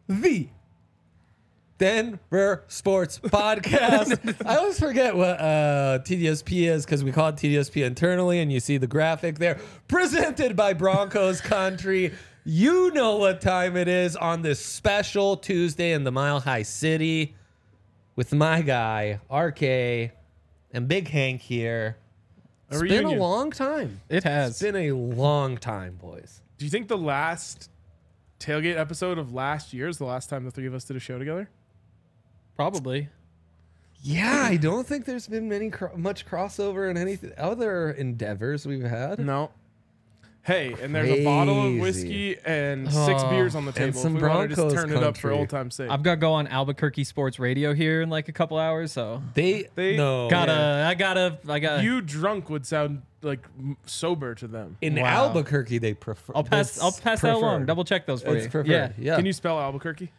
the Denver Sports Podcast. I always forget what TDSP is because we call it TDSP internally, and you see the graphic there. Presented by Broncos Country. You know what time it is on this special Tuesday in the Mile High City with my guy, RK, and Big Hank here. It's been a long time. It has. It's been a long time, boys. Do you think the last tailgate episode of last year is the last time the three of us did a show together? Probably. Yeah, I don't think there's been much crossover in any other endeavors we've had. No. Hey, and there's a bottle of Crazy. whiskey and 6 beers on the table. some if we want to just Broncos turn it up for country. old time's sake. I've got to go on Albuquerque Sports Radio here in like a couple hours, so They no. I gotta. You drunk would sound like sober to them. In Wow. Albuquerque, they prefer. I'll pass that along. Double check those for It's you. preferred. Yeah. Can you spell Albuquerque?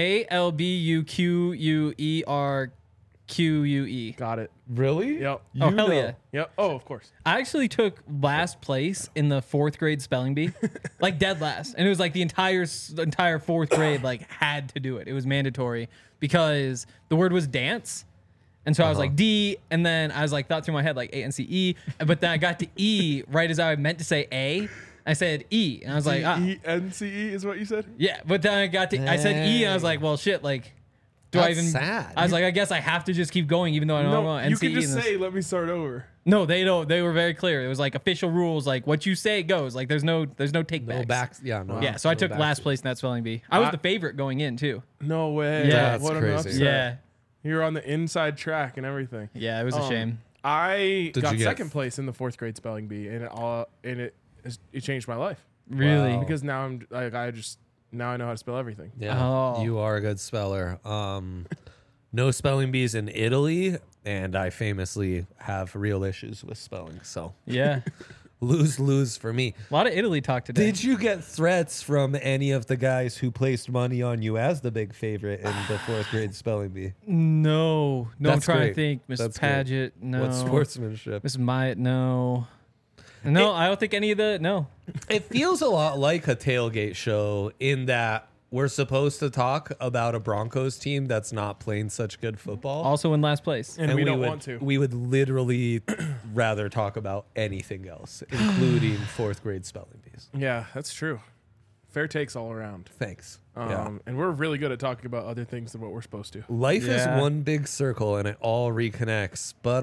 ALBUQUERQUE. Got it. Really? Yep. Oh, hell yeah. Yep. Oh, of course. I actually took last place in the 4th grade spelling bee, like dead last, and it was like the entire 4th grade like had to do it. It was mandatory because the word was dance, and so I was like D, and then I was like thought through my head like ANCE, but then I got to E right as I meant to say A. I said E, and I was like, ENCE is what you said? yeah, but then I said E, and I was like, well, shit, like. Do I That's even? sad. I was like, I guess I have to just keep going, even though I don't know No, NCE. you can just and this- say, let me start over. No, they don't. They were very clear. It was like official rules. Like what you say goes. Like there's no take No backs. Yeah. No. Yeah, so I no took backs. last place in that spelling bee. I was the favorite going in too. No way. Yeah. That's what crazy. an upset. Yeah, You're on the inside track and everything. yeah, it was a shame. I Did got you get- second place in the 4th grade spelling bee, and it changed my life Really? Wow. because now now I know how to spell everything. Yeah. Oh. You are a good speller. No spelling bees in Italy, and I famously have real issues with spelling. So Yeah, lose for me. a lot of Italy talk today. Did you get threats from any of the guys who placed money on you as the big favorite in the 4th grade spelling bee? No, I'm That's trying great. to think. Miss That's great. Paget, no. What sportsmanship? Miss Myatt, no. No, I don't think any of the no. It feels a lot like a tailgate show in that we're supposed to talk about a Broncos team that's not playing such good football. Also in last place. And we don't would, want to. We would literally rather talk about anything else, including 4th grade spelling bees. Yeah, that's true. Fair takes all around. Thanks. And we're really good at talking about other things than what we're supposed to. Life Yeah. is one big circle and it all reconnects. But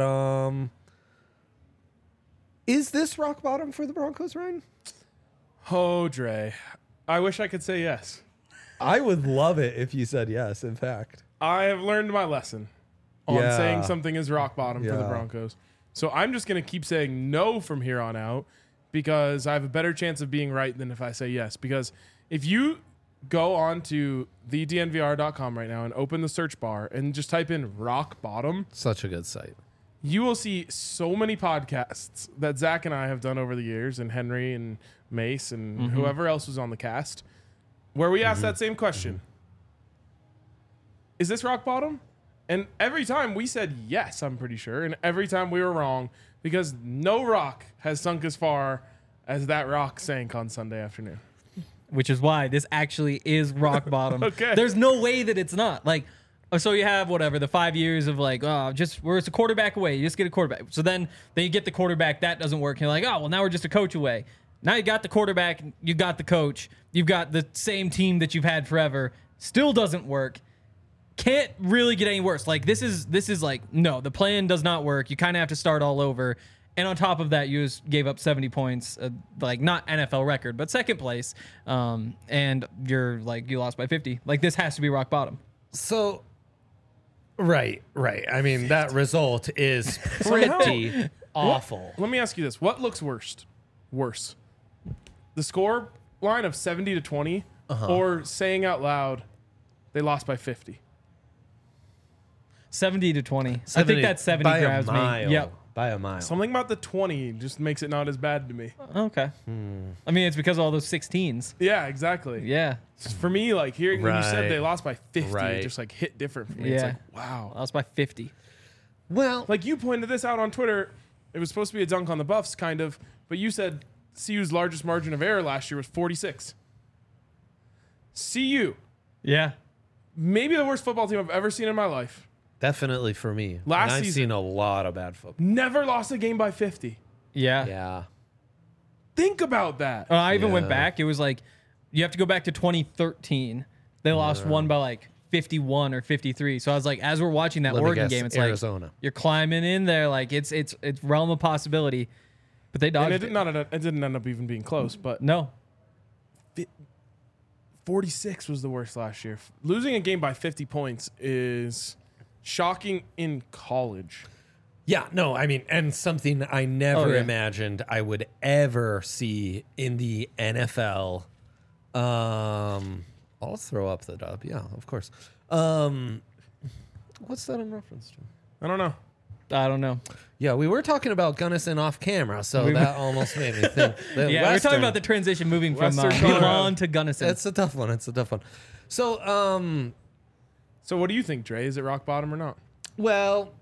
is this rock bottom for the Broncos, Ryan? Oh, Dre. I wish I could say yes. I would love it if you said yes, in fact. I have learned my lesson on Yeah. saying something is rock bottom for the Yeah. Broncos. So I'm just going to keep saying no from here on out because I have a better chance of being right than if I say yes. Because if you go on to thednvr.com right now and open the search bar and just type in rock bottom, Such a good site. you will see so many podcasts that Zach and I have done over the years, and Henry and Mace and whoever else was on the cast, where we ask that same question. Is this rock bottom? And every time we said yes, I'm pretty sure. And every time we were wrong because no rock has sunk as far as that rock sank on Sunday afternoon. Which is why this actually is rock bottom. Okay. There's no way that it's not. Like, so you have whatever, the 5 years of like, where it's a quarterback away. You just get a quarterback. So then you get the quarterback, that doesn't work. You're like, oh, well, now we're just a coach away. Now you got the quarterback, you got the coach, you've got the same team that you've had forever. Still doesn't work. Can't really get any worse. Like this is like, no, the plan does not work. You kind of have to start all over. And on top of that, you just gave up 70 points, like not NFL record, but second place. And you're like, you lost by 50. Like this has to be rock bottom. So, right. I mean, that result is pretty awful. Let me ask you this. What looks worse? The score line of 70-20 or saying out loud they lost by 50? 70-20. I think that 70 by grabs a mile. me. Yep. By a mile. Something about the 20 just makes it not as bad to me. Okay. I mean, it's because of all those 16s. Yeah, exactly. Yeah. For me, like hearing when you said Right. they lost by 50, Right. it just like hit different for me. It's Yeah. like, wow. Lost by 50. Well, Like you pointed this out on Twitter. It was supposed to be a dunk on the Buffs, kind of, but you said CU's largest margin of error last year was 46. CU Yeah. Maybe the worst football team I've ever seen in my life. Definitely for me. Last And I've season- seen a lot of bad football. Never lost a game by 50. Yeah. Yeah. Think about that. I even went Yeah. back. It was like, you have to go back to 2013. They lost one by like 51 or 53. So I was like, as we're watching that Let me Oregon guess, game, it's Arizona. like you're climbing in there, like it's realm of possibility. But they And dodged it, it. it didn't end up even being close, but No. 46 was the worst last year. Losing a game by 50 points is shocking in college. Yeah, no, I mean, and something I never Oh, yeah. imagined I would ever see in the NFL. I'll throw up the dub. Yeah, of course. What's that in reference to? I don't know. I don't know. Yeah, we were talking about Gunnison off camera, so that almost made me think. Yeah, we were talking about the transition moving from Western Colorado. Milan to Gunnison. It's a tough one. It's a tough one. So, So what do you think, Dre? Is it rock bottom or not? well,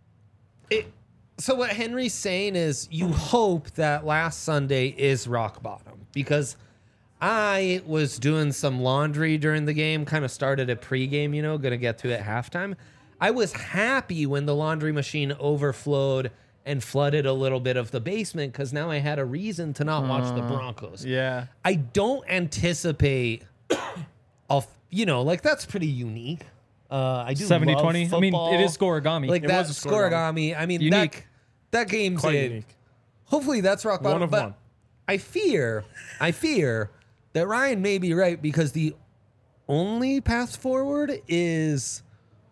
so what Henry's saying is you hope that last Sunday is rock bottom, because I was doing some laundry during the game, kind of started at pregame, gonna get to it at halftime. I was happy when the laundry machine overflowed and flooded a little bit of the basement, because now I had a reason to not watch the Broncos. yeah. I don't anticipate, that's pretty unique. I do 70-20. love I mean, football. it is scoregami. Like It that was a scoregami. I mean, Unique. that game's Quite it. unique. Hopefully that's rock bottom. One of but one. I fear that Ryan may be right, because the only path forward is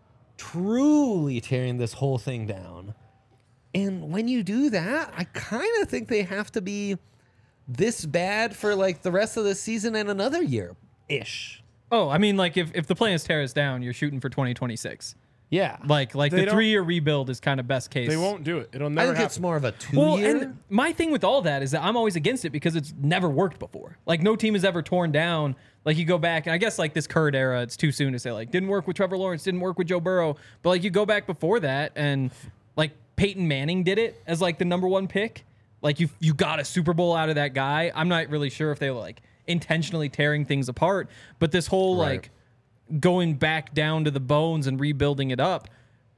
truly tearing this whole thing down. And when you do that, I kind of think they have to be this bad for like the rest of the season and another year ish. Oh, I mean, like if the plans tear us down, you're shooting for 2026. Yeah. Like They the don't- 3-year rebuild is kind of best case. They won't do it. It'll I never think happen. it's more of a 2 Well, year. and my thing with all that is that I'm always against it because it's never worked before. Like no team has ever torn down. Like you go back, and I guess like this current era, it's too soon to say like didn't work with Trevor Lawrence, didn't work with Joe Burrow. But like you go back before that, and like Peyton Manning did it as like the number one pick. Like you got a Super Bowl out of that guy. I'm not really sure if they were like intentionally tearing things apart, but this whole like going back down to the bones and rebuilding it up.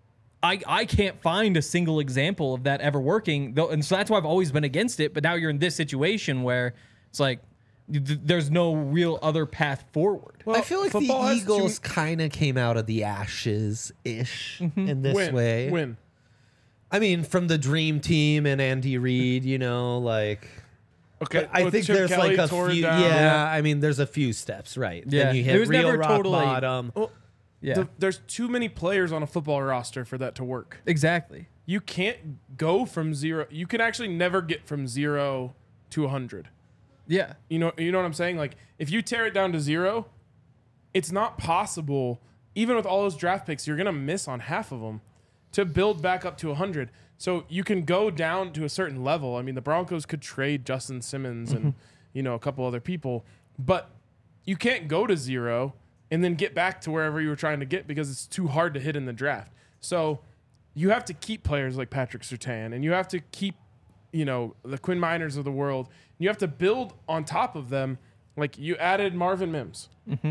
I can't find a single example of that ever working, though, and so that's why I've always been against it. But now you're in this situation where it's like there's no real other path forward. I feel like the football has Eagles kind of came out of the ashes ish in this way. Win. I mean, from the dream team and Andy Reid, like. Okay. I with think Chip there's Kelly like a tore it few. down. Yeah, I mean, there's a few steps, right? Yeah. Then you It hit was real never rock totally- bottom. Well, Yeah, there's too many players on a football roster for that to work. exactly. You can't go from zero. You can actually never get from 0 to 100. Yeah, You know what I'm saying? Like if you tear it down to 0, it's not possible. Even with all those draft picks, you're gonna miss on half of them to build back up to 100. So you can go down to a certain level. I mean, the Broncos could trade Justin Simmons and a couple other people, but you can't go to 0 and then get back to wherever you were trying to get because it's too hard to hit in the draft. So you have to keep players like Patrick Surtain, and you have to keep, the Quinn Miners of the world. You have to build on top of them. Like you added Marvin Mims.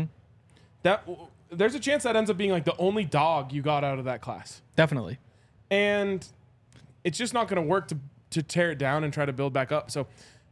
There's a chance that ends up being like the only dog you got out of that class, definitely. and it's just not going to work to tear it down and try to build back up. So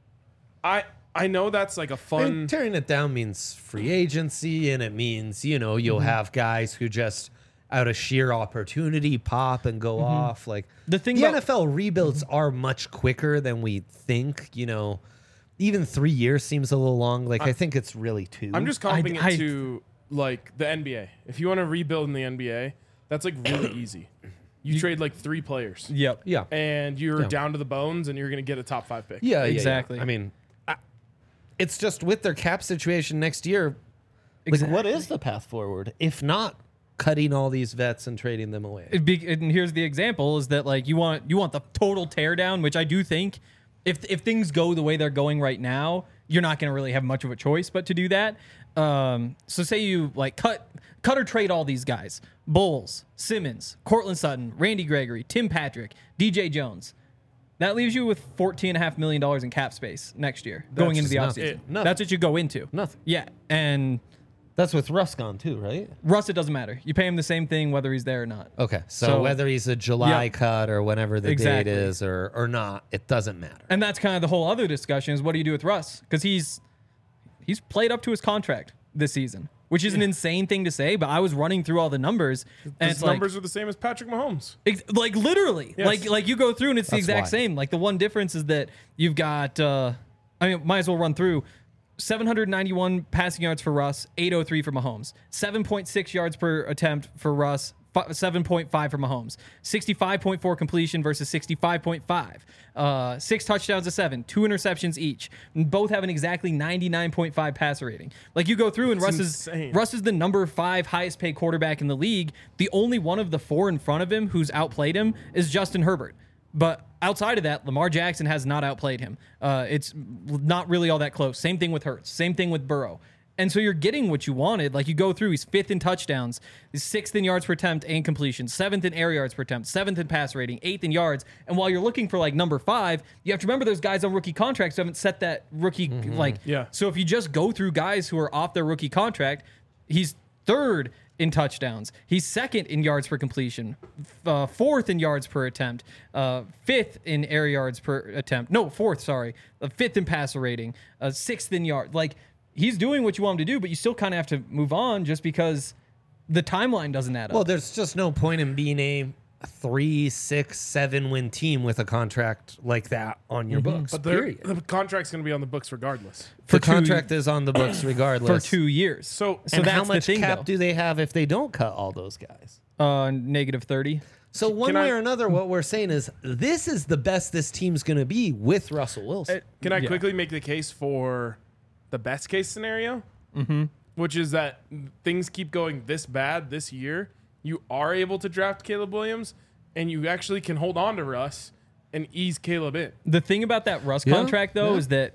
I know that's like a I fun. mean, tearing it down means free agency, and it means you'll have guys who just out of sheer opportunity pop and go off. Like The thing the about- NFL rebuilds are much quicker than we think. Even 3 years seems a little long. Like I think it's really 2. I'm just comping I- it to like the NBA. If you want to rebuild in the NBA, that's like really easy. You trade like 3 players, Yep. yeah. and you're Yeah. down to the bones, and you're going to get a top 5 pick. Yeah, Exactly. I mean, it's just with their cap situation next year. Like, what is the path forward if not cutting all these vets and trading them away? And here's the example: is that like you want the total teardown, which I do think if things go the way they're going right now, you're not going to really have much of a choice but to do that. So say you like cut or trade all these guys: Bowles, Simmons, Cortland Sutton, Randy Gregory, Tim Patrick, DJ Jones. That leaves you with $14.5 million in cap space next year going into the just nothing. offseason. Nothing. That's what you go into. Nothing. Yeah, and That's with Russ gone too, right? Russ, it doesn't matter. You pay him the same thing whether he's there or not. Okay, so, So- whether he's a July Yep. cut or whenever the Exactly. date is or not, it doesn't matter. And that's kind of the whole other discussion is what do you do with Russ? Because he's played up to his contract this season, which is an insane thing to say. But I was running through all the numbers, and His it's like, numbers are the same as Patrick Mahomes. like literally, Yes. like you go through and it's the That's exact why. same. Like the one difference is that you've got, might as well run through. 791 passing yards for Russ, 803 for Mahomes. 7.6 yards per attempt for Russ, 7.5 for Mahomes. 65.4 completion versus 65.5. 6 touchdowns to 7, 2 interceptions each. And both have an exactly 99.5 passer rating. Like you go through and Russ insane. is the number 5 highest paid quarterback in the league. The only one of the 4 in front of him who's outplayed him is Justin Herbert. But outside of that, Lamar Jackson has not outplayed him. It's not really all that close. Same thing with Hurts. Same thing with Burrow. And so you're getting what you wanted. Like you go through, he's 5th in touchdowns, he's 6th in yards per attempt and completion, 7th in air yards per attempt, 7th in pass rating, 8th in yards. And while you're looking for like number 5, you have to remember there's guys on rookie contracts who haven't set that rookie Yeah. So if you just go through guys who are off their rookie contract, he's 3rd in touchdowns. He's 2nd in yards per completion, 4th in yards per attempt, 5th in air yards per attempt. No, 4th, sorry. 5th in passer rating, 6th in yard. Like, he's doing what you want him to do, but you still kind of have to move on just because the timeline doesn't add up. Well, there's just no point in being a 3, 6, 7 win team with a contract like that on your books. But Period. the contract's going to be on the books regardless. The two- contract is on the books for regardless. 2 years. So and that's how much the thing, cap though. do they have if they don't cut all those guys? Negative 30. So one Can way I- or another, what we're saying is this is the best this team's going to be with Russell Wilson. Can I Yeah. quickly make the case for the best case scenario? Mm-hmm. Which is that things keep going this bad this year. You are able to draft Caleb Williams, and you actually can hold on to Russ and ease Caleb in. The thing about that Russ Yeah, contract, though, yeah. is that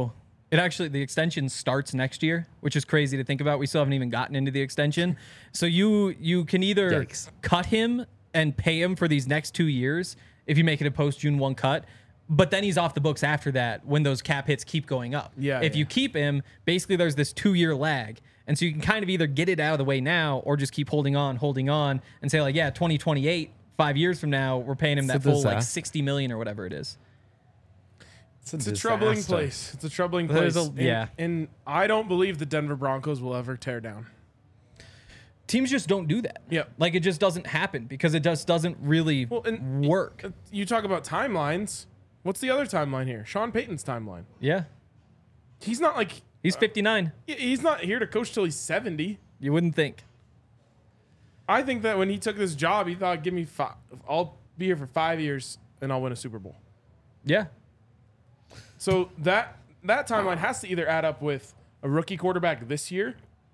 the extension starts next year, which is crazy to think about. We still haven't even gotten into the extension. So you can either Yikes. cut him and pay him for these next 2 years if you make it a post June 1 cut. But then he's off the books after that when those cap hits keep going up. Yeah, If yeah. you keep him, basically there's this 2-year lag. And so you can kind of either get it out of the way now or just keep holding on, and say, like, yeah, 2028, 5 years from now, we're paying him It's that a full like disaster. $60 million or whatever it is. It's a troubling place. It's a troubling There's place. a- And I don't believe the Denver Broncos will ever tear down. Teams just don't do that. Yep. Like it just doesn't happen because it just doesn't really and work. You talk about timelines. What's the other timeline here? Sean Payton's timeline. Yeah. He's not like He's 59. he's not here to coach till he's 70. You wouldn't think. I think that when he took this job, he thought, "Give me 5. I'll be here for 5 years and I'll win a Super Bowl." Yeah. So that timeline has to either add up with a rookie quarterback this year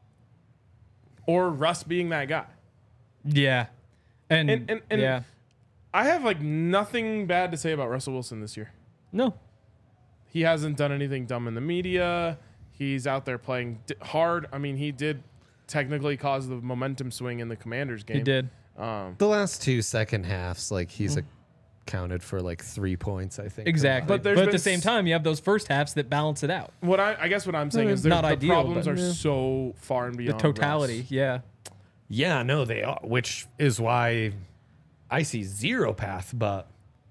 or Russ being that guy. Yeah. And And yeah. I have like nothing bad to say about Russell Wilson this year. No. He hasn't done anything dumb in the media. He's out there playing hard. I mean, he did technically cause the momentum swing in the Commanders game. He did. The last 2 second halves, like he's accounted for like 3 points, I think. Exactly. But But, there's at been the same time, you have those first halves that balance it out. What I guess what I'm saying is Not the ideal, problems but- are Yeah. so far and The beyond totality. Russ. Yeah. Yeah, no, they are, which is why I see zero path, but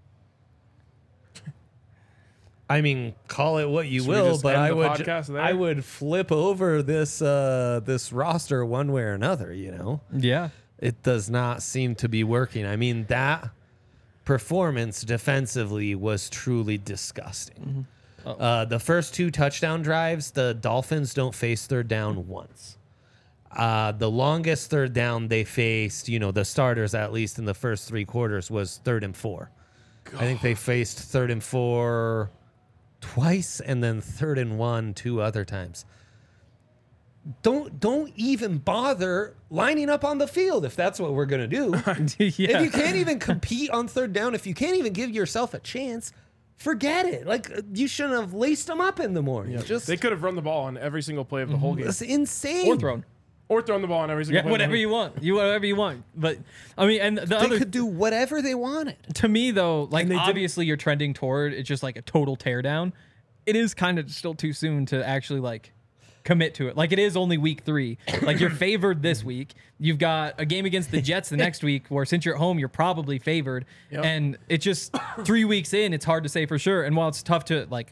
I mean, call it what you Should we will, just but end I the would podcast there? I would flip over this this roster one way or another, you know. Yeah. It does not seem to be working. I mean, that performance defensively was truly disgusting. The first 2 touchdown drives, the Dolphins don't face third down once. The longest third down they faced, you know, the starters at least in the first 3 quarters was 3rd and 4. I think they faced 3rd and 4 twice and then 3rd and 1 2 other times. Don't even bother lining up on the field if that's what we're going to do. Yeah. If you can't even compete on third down, if you can't even give yourself a chance, forget it. Like you shouldn't have laced them up in the morning. Just They could have run the ball on every single play of the whole game. it's insane. Or thrown. Or thrown the ball on every single Yeah, play. whatever you want. Whatever you want. But I mean, and the They other could do whatever they wanted. to me though, like And they didn't- obviously you're trending toward it's just like a total teardown. It is kind of still too soon to actually like commit to it. Like, it is only week 3. Like, you're favored this week. You've got a game against the Jets the next week where, since you're at home, you're probably favored. Yep. And it's just 3 weeks in, it's hard to say for sure. And while it's tough to, like,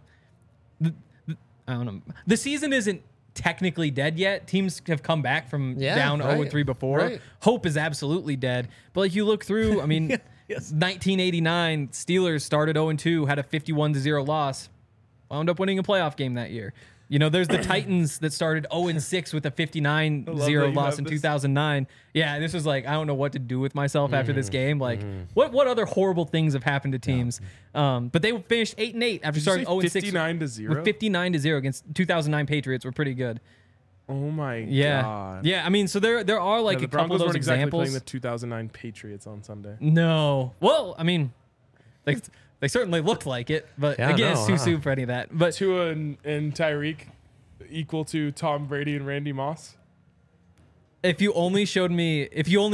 I don't know. The season isn't technically dead yet. Teams have come back from down 0-3 before. Right. Hope is absolutely dead. But, like, you look through, I mean, Yes. 1989, Steelers started 0-2, had a 51-0 loss, wound up winning a playoff game that year. You know, there's the Titans that started 0-6 with a 59-0 loss in 2009. Yeah, this was like, I don't know what to do with myself after this game. Like, what other horrible things have happened to teams? But they finished 8-8 after starting 0-6 59-0. with 59-0 against 2009 Patriots. Were pretty good. Oh my Yeah, god. yeah. I mean, so there are like The a couple Broncos of those weren't exactly examples. playing the 2009 Patriots on Sunday. No, well, I mean, they certainly looked like it, but Yeah, again, no, it's too soon for any of that. But Tua and Tyreek equal to Tom Brady and Randy Moss. if you only showed me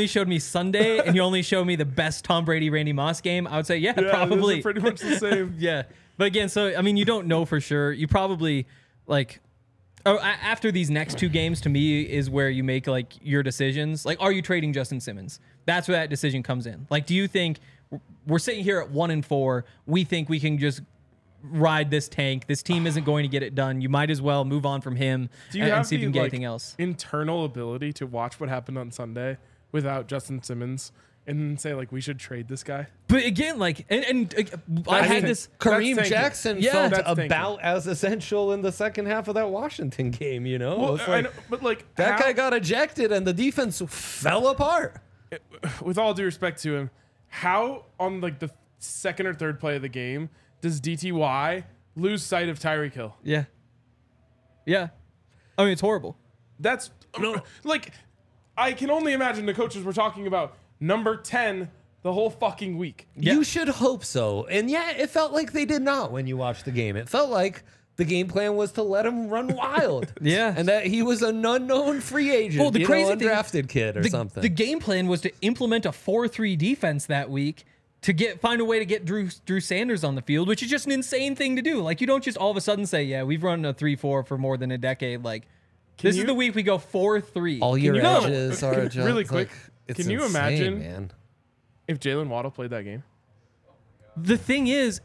Sunday and you only showed me the best Tom Brady Randy Moss game, I would say yeah, Yeah, probably. those are pretty much the same. Yeah, but again, so I mean, you don't know for sure. You probably like. After these next 2 games, to me, is where you make like your decisions. Like, are you trading Justin Simmons? That's where that decision comes in. Like, do you think we're sitting here at 1-4? We think we can just ride this tank. This team isn't going to get it done. You might as well move on from him Do you and have see if you can the get anything else. internal ability to watch what happened on Sunday without Justin Simmons and say like we should trade this guy? But again, like, and I had think- this. Kareem That's Jackson Yeah. felt That's thinking. about as essential in the second half of that Washington game, you know? Well, It's I like, know, but like that how- guy got ejected and the defense fell apart. with all due respect to him, how on like the second or third play of the game does DTY lose sight of Tyreek Hill? Yeah. Yeah. I mean, it's horrible. That's like I can only imagine the coaches were talking about number 10 the whole fucking week. Yeah. You should hope so. And yeah, it felt like they did not when you watched the game. It felt like the game plan was to let him run wild. Yeah. And that he was an unknown free agent, Well, the crazy thing- undrafted kid or something. The game plan was to implement a 4-3 defense that week to find a way to get Drew Sanders on the field, which is just an insane thing to do. Like, you don't just all of a sudden say, yeah, we've run a 3-4 for more than a decade. Like, this is you- the week we go 4-3. All your you- edges are just really quick, it's can you insane, imagine- man? If Jalen Waddle played that game, The thing is,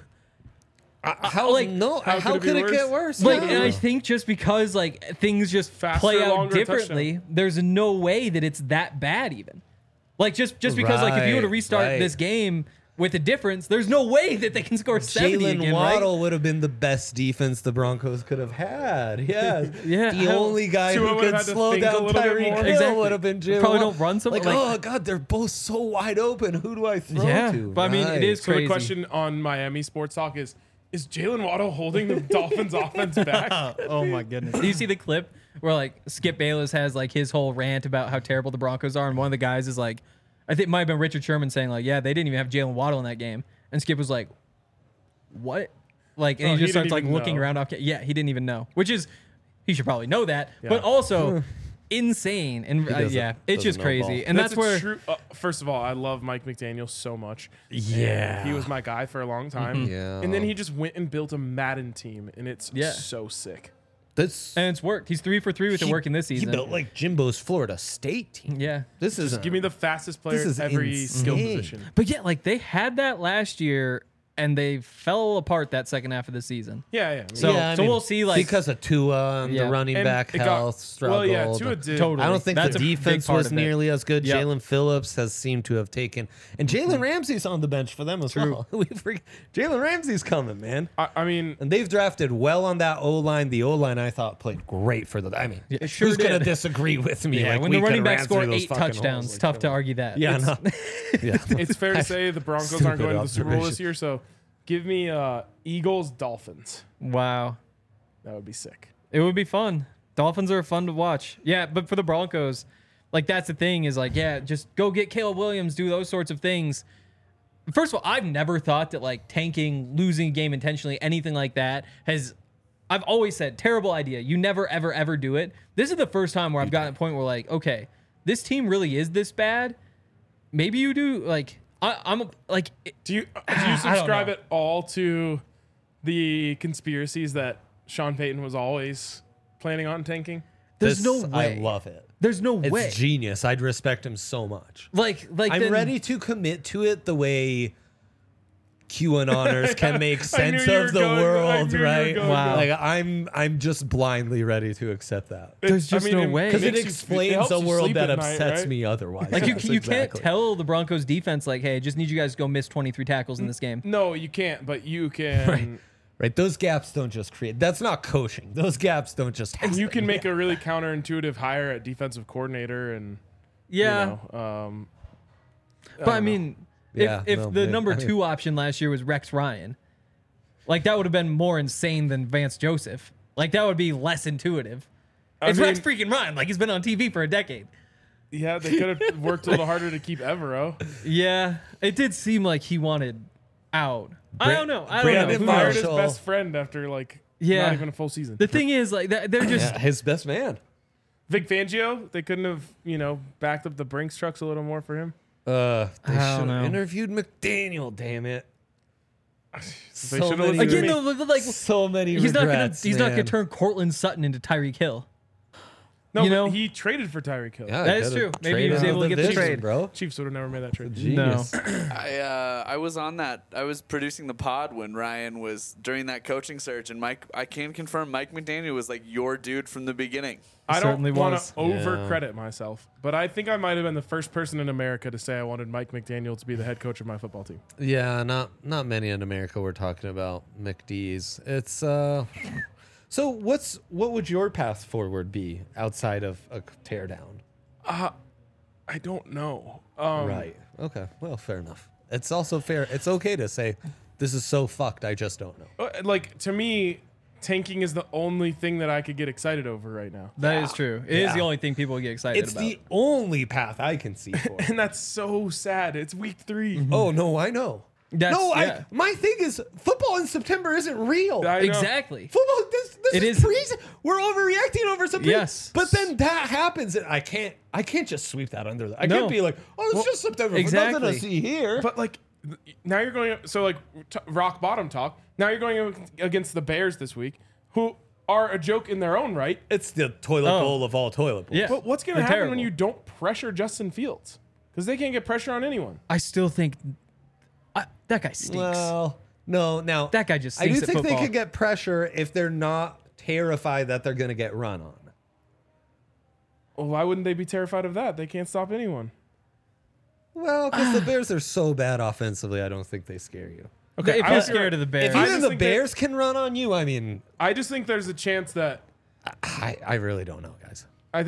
How like, how could it could be it get worse? worse? like, Yeah. and I think just because like things just Faster, play out longer differently, there's no way that it's that bad even. Like just because like if you were to Right, restart right. this game with a difference, there's no way that they can score 70 Jalen again, Waddle right? would have been the best defense the Broncos could have had. Yeah, Yeah, The I don't- only guy Tua who would could have had to slow think a down little bit Tyreek more. Hill Exactly. would have been Jalen. Probably Waddle. don't run some- like, like- oh god, they're both so wide open. Who do I throw Yeah, to? but I mean, it is so crazy. the question on Miami Sports Talk is Jalen Waddle holding the Dolphins offense back? Oh my goodness! Do you see the clip where like Skip Bayless has like his whole rant about how terrible the Broncos are, and one of the guys is like, I think it might have been Richard Sherman saying like, yeah, they didn't even have Jalen Waddle in that game, and Skip was like, what? Like, and Oh, he he just starts didn't like even looking know. around. Yeah, he didn't even know, which is he should probably know that, but also insane and doesn't- it's just doesn't know crazy, ball. and that's a where true, first of all, I love Mike McDaniel so much. Yeah. He was my guy for a long time. Yeah. And then he just went and built a Madden team, and it's Yeah. so sick. That's and it's worked. He's 3 for 3 with it working this season. He built like Jimbo's Florida State team. Yeah. This is Give me the fastest player is at every skill insane. position. But yeah, like they had that last year and they fell apart that second half of the season. Yeah, yeah. So- I we'll see, like- because of Tua and Yeah. the running And back it got- health struggled. well, yeah, Tua did. Totally. I don't think That's the a big defense part was of it. nearly as good. Yep. Jalen Phillips has seemed to have taken, and Jalen Ramsey's on the bench for them as well. Jalen Ramsey's coming, man. I mean, And they've drafted well on that O line. The O line I thought played great for the. I mean, it sure who's gonna did. disagree with me? Yeah, Like, when we the running could've back ran scored through those 8 fucking touchdowns, holes. tough to argue that. Yeah, It's- no. Yeah. it's fair to say the Broncos aren't Stupid going to the Super Bowl this observation. year, so give me Eagles Dolphins. Wow. That would be sick. It would be fun. Dolphins are fun to watch. Yeah, but for the Broncos, like that's the thing is like, yeah, just go get Caleb Williams, do those sorts of things. First of all, I've never thought that like tanking, losing a game intentionally, anything like that I've always said, terrible idea. You never, ever, ever do it. This is the first time where I've gotten to a point where like, okay, this team really is this bad. Maybe you do like, I'm like, Do you don't subscribe know. at all to the conspiracies that Sean Payton was always planning on tanking? There's This- no way. I love it. There's no It's way. genius. I'd respect him so much. Like I'm then- ready to commit to it the way QAnoners can make sense knew you of were the going- I world, knew you were right? going Wow. Like I'm just blindly ready to accept that. There's just no way. Because it makes you- explains helps a you world sleep that at night, upsets right? me otherwise. Like you Yes, can't exactly. tell the Broncos defense like, hey, just need you guys to go miss 23 tackles in this game. No, you can't, but you can. Right, those gaps don't just create. That's not coaching. Those gaps don't just happen. You can make a really counterintuitive hire at defensive coordinator, and Yeah, you know, but I don't know. mean, Yeah, if no, the man, number I mean- 2 option last year was Rex Ryan, like that would have been more insane than Vance Joseph. Like that would be less intuitive. It's Rex freaking Ryan. Like he's been on TV for a decade. yeah, they could have worked a little harder to keep Evero. Yeah, it did seem like he wanted out. I don't know. I don't Brandon know. They Who fired knows? his Marshall. best friend after like Yeah. not even a full season. The thing is, like, they're just. Yeah, his best man. Vic Fangio, they couldn't have backed up the Brinks trucks a little more for him. They I should don't have know. interviewed McDaniel. Damn it! They So should've many, listened to Again, me. though, like so many. he's regrets, not gonna man. turn Cortland Sutton into Tyreek Hill. No, you but know? he traded for Tyreek Hill. Yeah, That is could've true. Maybe he was traded able to the get the division, trade. bro. Chiefs would have never made that trade. Genius. I was on that. I was producing the pod when Ryan was during that coaching search, and I can confirm Mike McDaniel was like your dude from the beginning. I don't Certainly want was. to overcredit myself, but I think I might have been the first person in America to say I wanted Mike McDaniel to be the head coach of my football team. Yeah, not many in America we're talking about McD's. It's So what would your path forward be outside of a teardown? I don't know. Right. Okay. Well, fair enough. It's also fair. It's okay to say this is so fucked. I just don't know. Like to me, tanking is the only thing that I could get excited over right now, That is true. It is Yeah. the only thing people get excited It's about. the only path I can see for. and that's so sad. It's week 3. Oh no, I know. That's- no, yeah. my thing is football in September isn't real. I know. Exactly. Football, this It is is- crazy. We're overreacting over something. Yes. But then that happens, and I can't just sweep that under. I No. can't be like, oh, it's just September. exactly. Nothing to see here. But like now you're going rock bottom talk. Now you're going against the Bears this week, who are a joke in their own right. It's the toilet Oh. bowl of all toilet bowls. Yeah. But what's going to They're happen terrible. when you don't pressure Justin Fields? Because they can't get pressure on anyone. I still think that guy stinks. Well, no. Now That guy just I do stinks at think they football. could get pressure if they're not terrified that they're going to get run on. Well, why wouldn't they be terrified of that? They can't stop anyone. Well, because the Bears are so bad offensively, I don't think they scare you. Okay, If I you're was- scared of the Bears, If I even just the think that- Bears can run on you, I mean, I just think there's a chance that I really don't know, guys.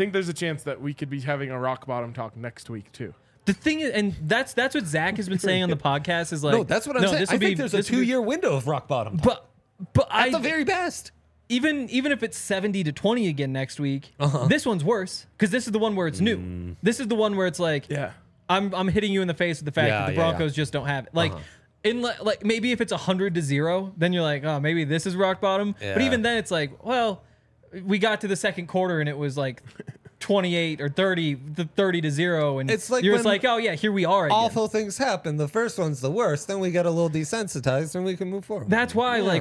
we could be having a rock bottom talk next week too. the thing is, and that's what Zach has been saying on the podcast is like, No, that's what I'm saying. this I will think be- there's a this will be- 2-year window of rock bottom. But at the very best. even if it's 70-20 again next week, Uh-huh. this one's worse because this is the one where it's new. This is the one where it's like, Yeah. I'm hitting you in the face with the fact Yeah, that the yeah, yeah. Broncos just don't have it. Like, Uh-huh. like maybe if it's 100-0, then you're like, oh, maybe this is rock bottom. But Yeah. even then, it's like, well, we got to the second quarter and it was like 28 or 30-0, and It's like you're just when like, oh yeah, here we are again. Awful things happen. The first one's the worst. Then we get a little desensitized and we can move forward. That's why, Yeah.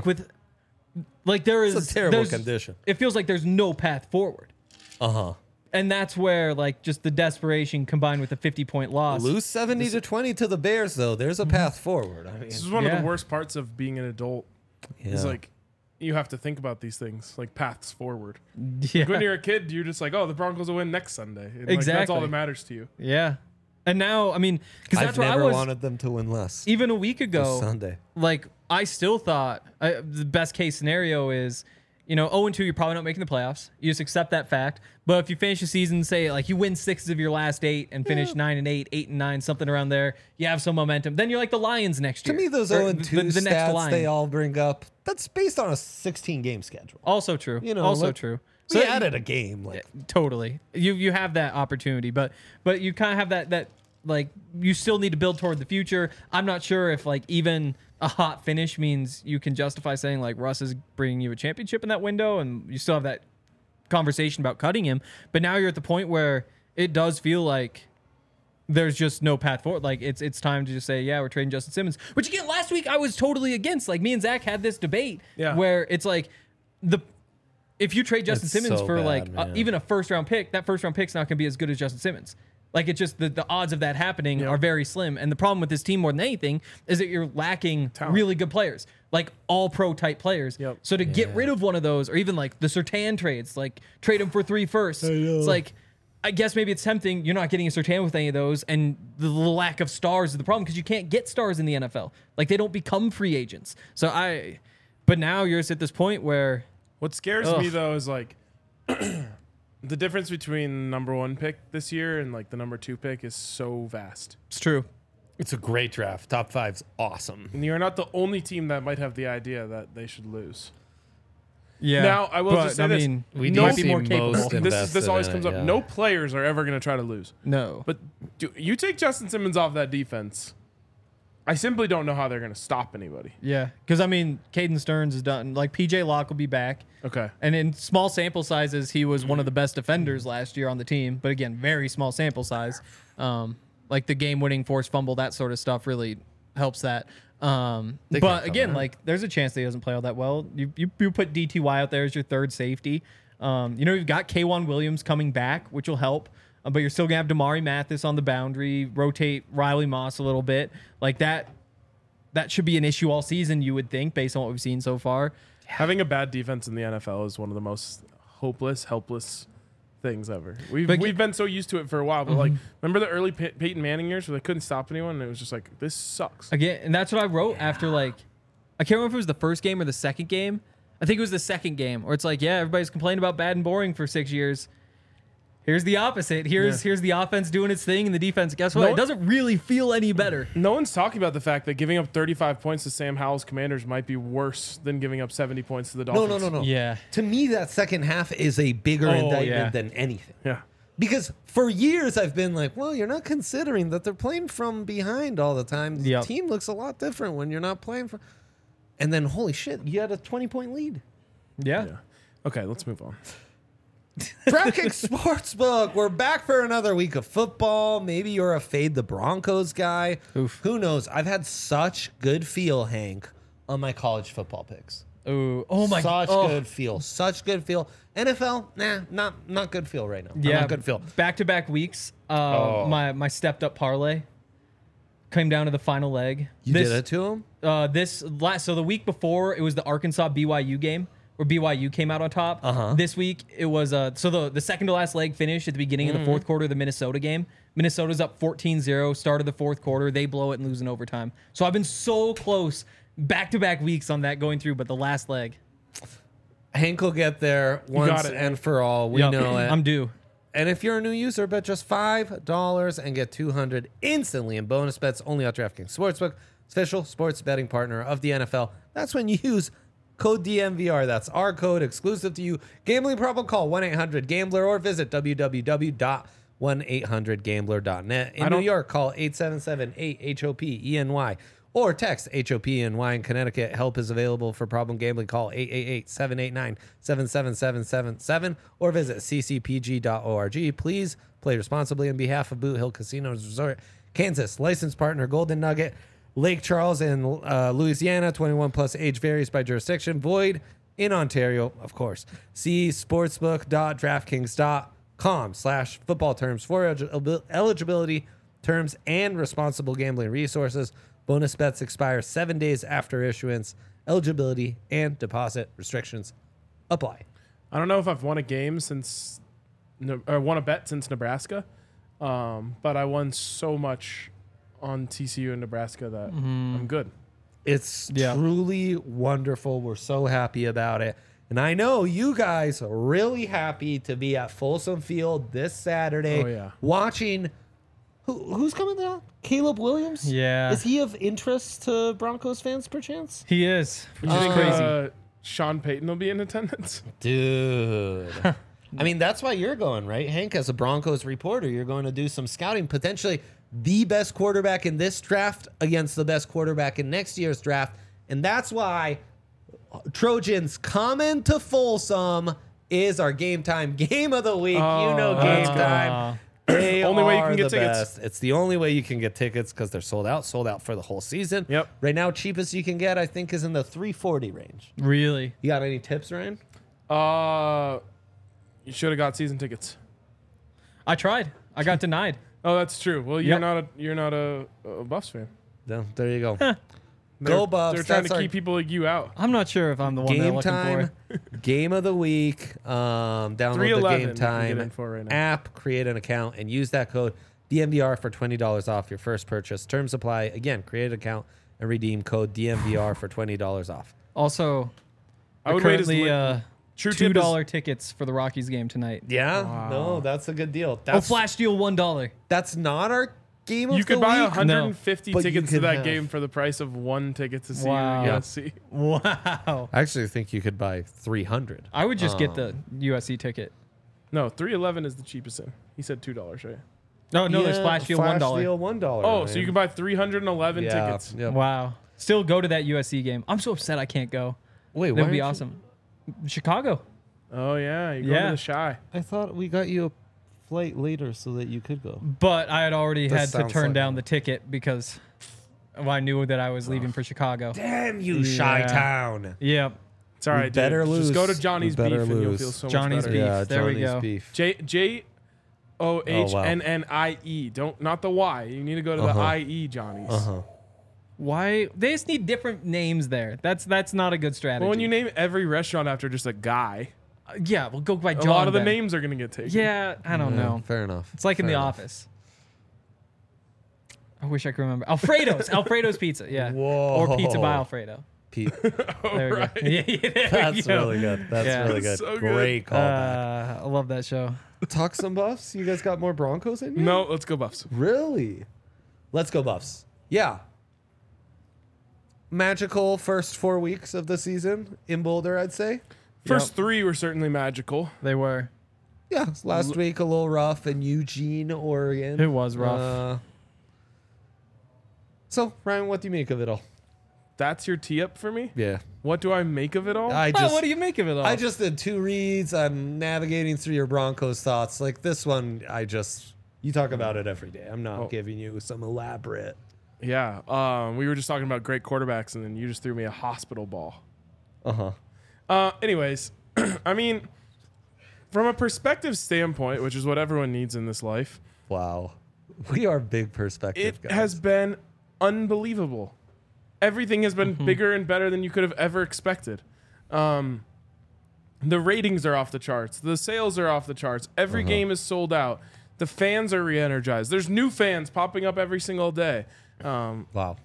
there is It's a terrible there's- condition. It feels like there's no path forward. Uh-huh. And that's where, like, just the desperation combined with the 50-point loss. Lose 70-20 to the Bears, though. There's a path forward. I mean, This is one of Yeah. the worst parts of being an adult. Is yeah. like you have to think about these things, like paths forward. Yeah. When you're a kid, you're just like, oh, the Broncos will win next Sunday. And, like, that's all Exactly. that matters to you. Yeah. And now, I mean, because I've that's what I never was wanted them to win less. even a week This ago. Sunday. Like, I still thought the best case scenario is, 0-2, you're probably not making the playoffs. You just accept that fact. But if you finish the season, say, like, you win 6 of your last 8 and finish 9-8, 8-9, something around there, you have some momentum. Then you're like the Lions next To year. me, those Or 0-2 the next stats line. they all bring up, that's based on a 16-game schedule. Also true. Also like, true. We So added a game. Like, Totally. You have that opportunity, but you kind of have that like you still need to build toward the future. I'm not sure if like even a hot finish means you can justify saying like Russ is bringing you a championship in that window, and you still have that conversation about cutting him. But now you're at the point where it does feel like there's just no path forward. Like it's time to just say, yeah, we're trading Justin Simmons. Which again, last week I was totally against. Like me and Zach had this debate Yeah. where it's like if you trade Justin It's Simmons so for bad, like man. even a first round pick, that first round pick's not going to be as good as Justin Simmons. Like it's just the odds of that happening are very slim. And the problem with this team more than anything is that you're lacking really good players, like all pro type players. Yep. So to get rid of one of those, or even like the Surtain trades, like trade him for 3 firsts, it's like, I guess maybe it's tempting. You're not getting a Surtain with any of those, and the lack of stars is the problem because you can't get stars in the NFL. Like they don't become free agents. But now you're just at this point where What scares me though is like the difference between number 1 pick this year and like the number 2 pick is so vast. it's true. It's a great draft. Top 5's awesome. And you're not the only team that might have the idea that they should lose. Yeah. Now, I will just say this. We No- do see more capable. most This invested always in comes it, up. yeah. No players are ever going to try to lose. No. But you take Justin Simmons off that defense, I simply don't know how they're going to stop anybody. Yeah, because I mean, Caden Stearns is done. Like PJ Locke will be back, Okay. and in small sample sizes, he was one of the best defenders last year on the team. But again, very small sample size. Like the game-winning forced fumble, that sort of stuff really helps that. They can't But cover again, him. like there's a chance that he doesn't play all that well. You put DTY out there as your third safety. You've got K'Wan Williams coming back, which will help. But you're still gonna have Damari Mathis on the boundary, rotate Riley Moss a little bit, like that. That should be an issue all season, you would think, based on what we've seen so far. Having a bad defense in the NFL is one of the most hopeless, helpless things ever. We've been so used to it for a while, but like, remember the early Peyton Manning years where they couldn't stop anyone, and it was just like, this sucks. Again, and that's what I wrote after, like, I can't remember if it was the first game or the second game. I think it was the second game, where it's like, yeah, everybody's complained about bad and boring for 6 years. Here's the opposite. Here's the offense doing its thing, and the defense, guess what? It doesn't really feel any better. No one's talking about the fact that giving up 35 points to Sam Howell's Commanders might be worse than giving up 70 points to the Dolphins. No. Yeah. To me, that second half is a bigger indictment yeah. than anything. Yeah. Because for years I've been like, well, you're not considering that they're playing from behind all the time. The Yep. team looks a lot different when you're not playing from. And then, holy shit, you had a 20-point lead. Yeah. Okay, let's move on. DraftKings Sportsbook. We're back for another week of football. Maybe you're a fade the Broncos guy. Oof. Who knows? I've had such good feel, Hank, on my college football picks. Ooh. Oh my Such god. good feel. Such good feel. NFL, not good feel right now. Yeah. Not good feel. Back-to-back weeks. My stepped up parlay came down to the final leg. You did it to him? So the week before it was the Arkansas BYU game where BYU came out on top. This week it was so the second to last leg finished at the beginning of the fourth quarter of the Minnesota game. Minnesota's up 14-0, start of the fourth quarter. They blow it and lose in overtime. So I've been so close back-to-back weeks on that going through, but the last leg. Hank will get there once got it. and for all. We Yup, know it. I'm due. And if you're a new user, bet just $5 and get $200 instantly in bonus bets only on DraftKings Sportsbook, official sports betting partner of the NFL. That's when you use code DMVR. That's our code exclusive to you. Gambling problem? Call 1-800-GAMBLER or visit www.1800gambler.net. In New York, call 877-8-HOPENY or text HOPENY. In Connecticut, help is available for problem gambling. Call 888-789-77777 or visit ccpg.org. Please play responsibly on behalf of Boot Hill Casinos Resort, Kansas. Licensed partner Golden Nugget. Lake Charles in Louisiana. 21 plus, age varies by jurisdiction. Void in Ontario, of course. See sportsbook.draftkings.com/football terms for eligibility, terms, and responsible gambling resources. Bonus bets expire 7 days after issuance. Eligibility and deposit restrictions apply. I don't know if I've won a game since, or won a bet since Nebraska, but I won so much on TCU and Nebraska that I'm good. It's truly wonderful. We're so happy about it. And I know you guys are really happy to be at Folsom Field this Saturday Oh, yeah. watching. Who's coming down? Caleb Williams? Yeah. Is he of interest to Broncos fans, perchance? He is. Which You is think crazy. Sean Payton will be in attendance? Dude. I mean, that's why you're going, right, Hank? As a Broncos reporter, you're going to do some scouting, potentially the best quarterback in this draft against the best quarterback in next year's draft. And that's why Trojans coming to Folsom is our game time game of the week. Oh, you know game that's good. time. They Only way you are can get the tickets. best. It's the only way you can get tickets because they're sold out for the whole season. Yep. Right now, cheapest you can get, I think, is in the $340 range. Really? You got any tips, Ryan? You should have got season tickets. I tried. I got denied. Oh, that's true. Well, Yep. you're not a Buffs fan. No, there you go. They're- Go Buffs. They're trying That's to our keep people like you out. I'm not sure if I'm the one they're game looking time, for. game of the week. Download the 311 Game you can get in Time for right now. app, create an account, and use that code DMVR for $20 off your first purchase. Terms apply. Again, create an account and redeem code DMVR for $20 off. Also, I would wait as currently True tip $2 tickets for the Rockies game tonight. Yeah, Wow. no, that's a good deal. Oh, That's flash deal $1. that's not our game of You the could buy week. 150 But you tickets to could that have- game for the price of one ticket to see Wow. USC. Wow. I actually think you could buy 300. I would just get the USC ticket. No, 311 is the cheapest in. He said $2, right? No, there's flash deal $1. Deal $1. Oh, so you can buy 311 tickets. Yeah. Wow. Still go to that USC game. I'm so upset I can't go. Wait, That why would be aren't you- awesome. Chicago. Oh yeah, you go Yeah. to the Shy. I thought we got you a flight later so that you could go. But I had already That had to sounds turn like down it. the ticket because I knew that I was leaving for Chicago. Damn you, Yeah. Chi-Town. Yep. It's all right, dude. better lose. Just go to Johnny's We Beef better and you'll lose. feel so Johnny's much better. Beef. Yeah, There we Johnny's go. Beef. JOHNNIE. Don't not the Y. You need to go to the IE Johnny's. Why? They just need different names there. That's not a good strategy. Well, when you name every restaurant after just a guy, yeah, we'll go by John. a lot of the then. names are gonna get taken. Yeah, I don't know. Fair enough. It's like in Fair The enough. Office. I wish I could remember. Alfredo's Pizza. Yeah. Whoa. Or Pizza by Alfredo. Pete. There we go. Yeah, there we That's go. really good. That's Yeah. really good. So good. Great call. I love that show. Talk some Buffs. You guys got more Broncos in you? No, let's go Buffs. Really? Let's go Buffs. Yeah. Magical first 4 weeks of the season in Boulder, I'd say. First three were certainly magical. They were. Yeah, last week a little rough in Eugene, Oregon. It was rough. So, Ryan, what do you make of it all? That's your tee up for me. Yeah. What do I make of it all? What do you make of it all? I just did 2 reads. I'm navigating through your Broncos thoughts. Like this one, you talk about it every day. I'm not giving you some elaborate. Yeah. We were just talking about great quarterbacks, and then you just threw me a hospital ball. Anyways, I mean, from a perspective standpoint, which is what everyone needs in this life, Wow. We are big perspective it guys. has been unbelievable. Everything has been bigger and better than you could have ever expected. The ratings are off the charts. The sales are off the charts. Every game is sold out. The fans are re-energized. There's new fans popping up every single day. Wow.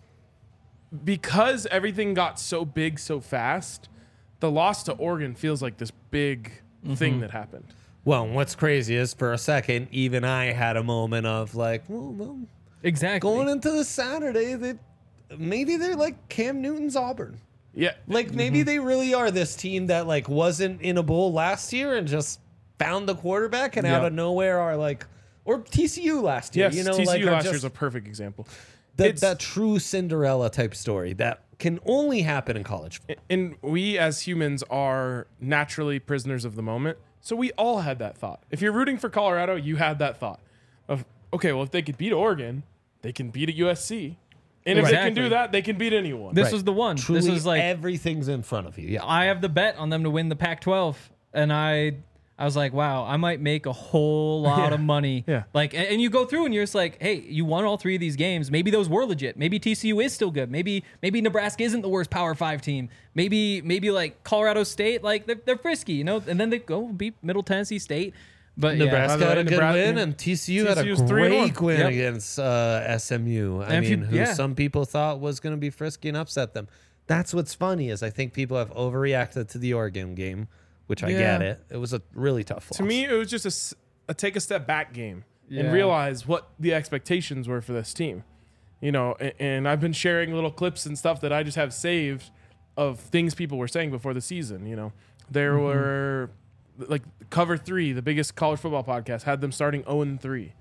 Because everything got so big so fast, the loss to Oregon feels like this big thing that happened. Well, what's crazy is for a second, even I had a moment of like, well exactly. going into the Saturday, maybe they're like Cam Newton's Auburn. Yeah. Like maybe they really are this team that like wasn't in a bowl last year and just found the quarterback and out Yeah. of nowhere are like, or TCU last year. Yes, You know, TCU like are last year just is a perfect example. that true Cinderella type story that can only happen in college football. And we as humans are naturally prisoners of the moment. So we all had that thought. If you're rooting for Colorado, you had that thought of, okay, well, if they could beat Oregon, they can beat a USC. And if they can Exactly. do that, they can beat anyone. This Right. was the one. Truly, this was like everything's in front of you. Yeah. I have the bet on them to win the Pac-12, and I was like, wow, I might make a whole lot of money. Yeah. Like, and you go through and you're just like, hey, you won all 3 of these games. Maybe those were legit. Maybe TCU is still good. Maybe Nebraska isn't the worst Power 5 team. Maybe like Colorado State, like they're frisky, you know. And then they go beat Middle Tennessee State. But Nebraska By the had way, a good Nebraska- win, and TCU had a TCU's 3-1. great win Yep. against SMU. I And if you- mean, who yeah. some people thought was going to be frisky and upset them. That's what's funny is I think people have overreacted to the Oregon game, which I Yeah. get it. It was a really tough loss. To me, it was just a take a step back game Yeah. and realize what the expectations were for this team. You know, and I've been sharing little clips and stuff that I just have saved of things people were saying before the season. You know, there were like Cover 3, the biggest college football podcast, had them starting 0-3.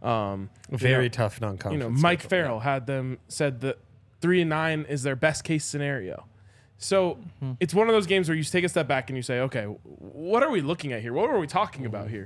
very tough non-conference. You know, Mike schedule. Farrell had them said that 3-9 is their best case scenario. So it's one of those games where you take a step back and you say, okay, what are we looking at here? What are we talking about here?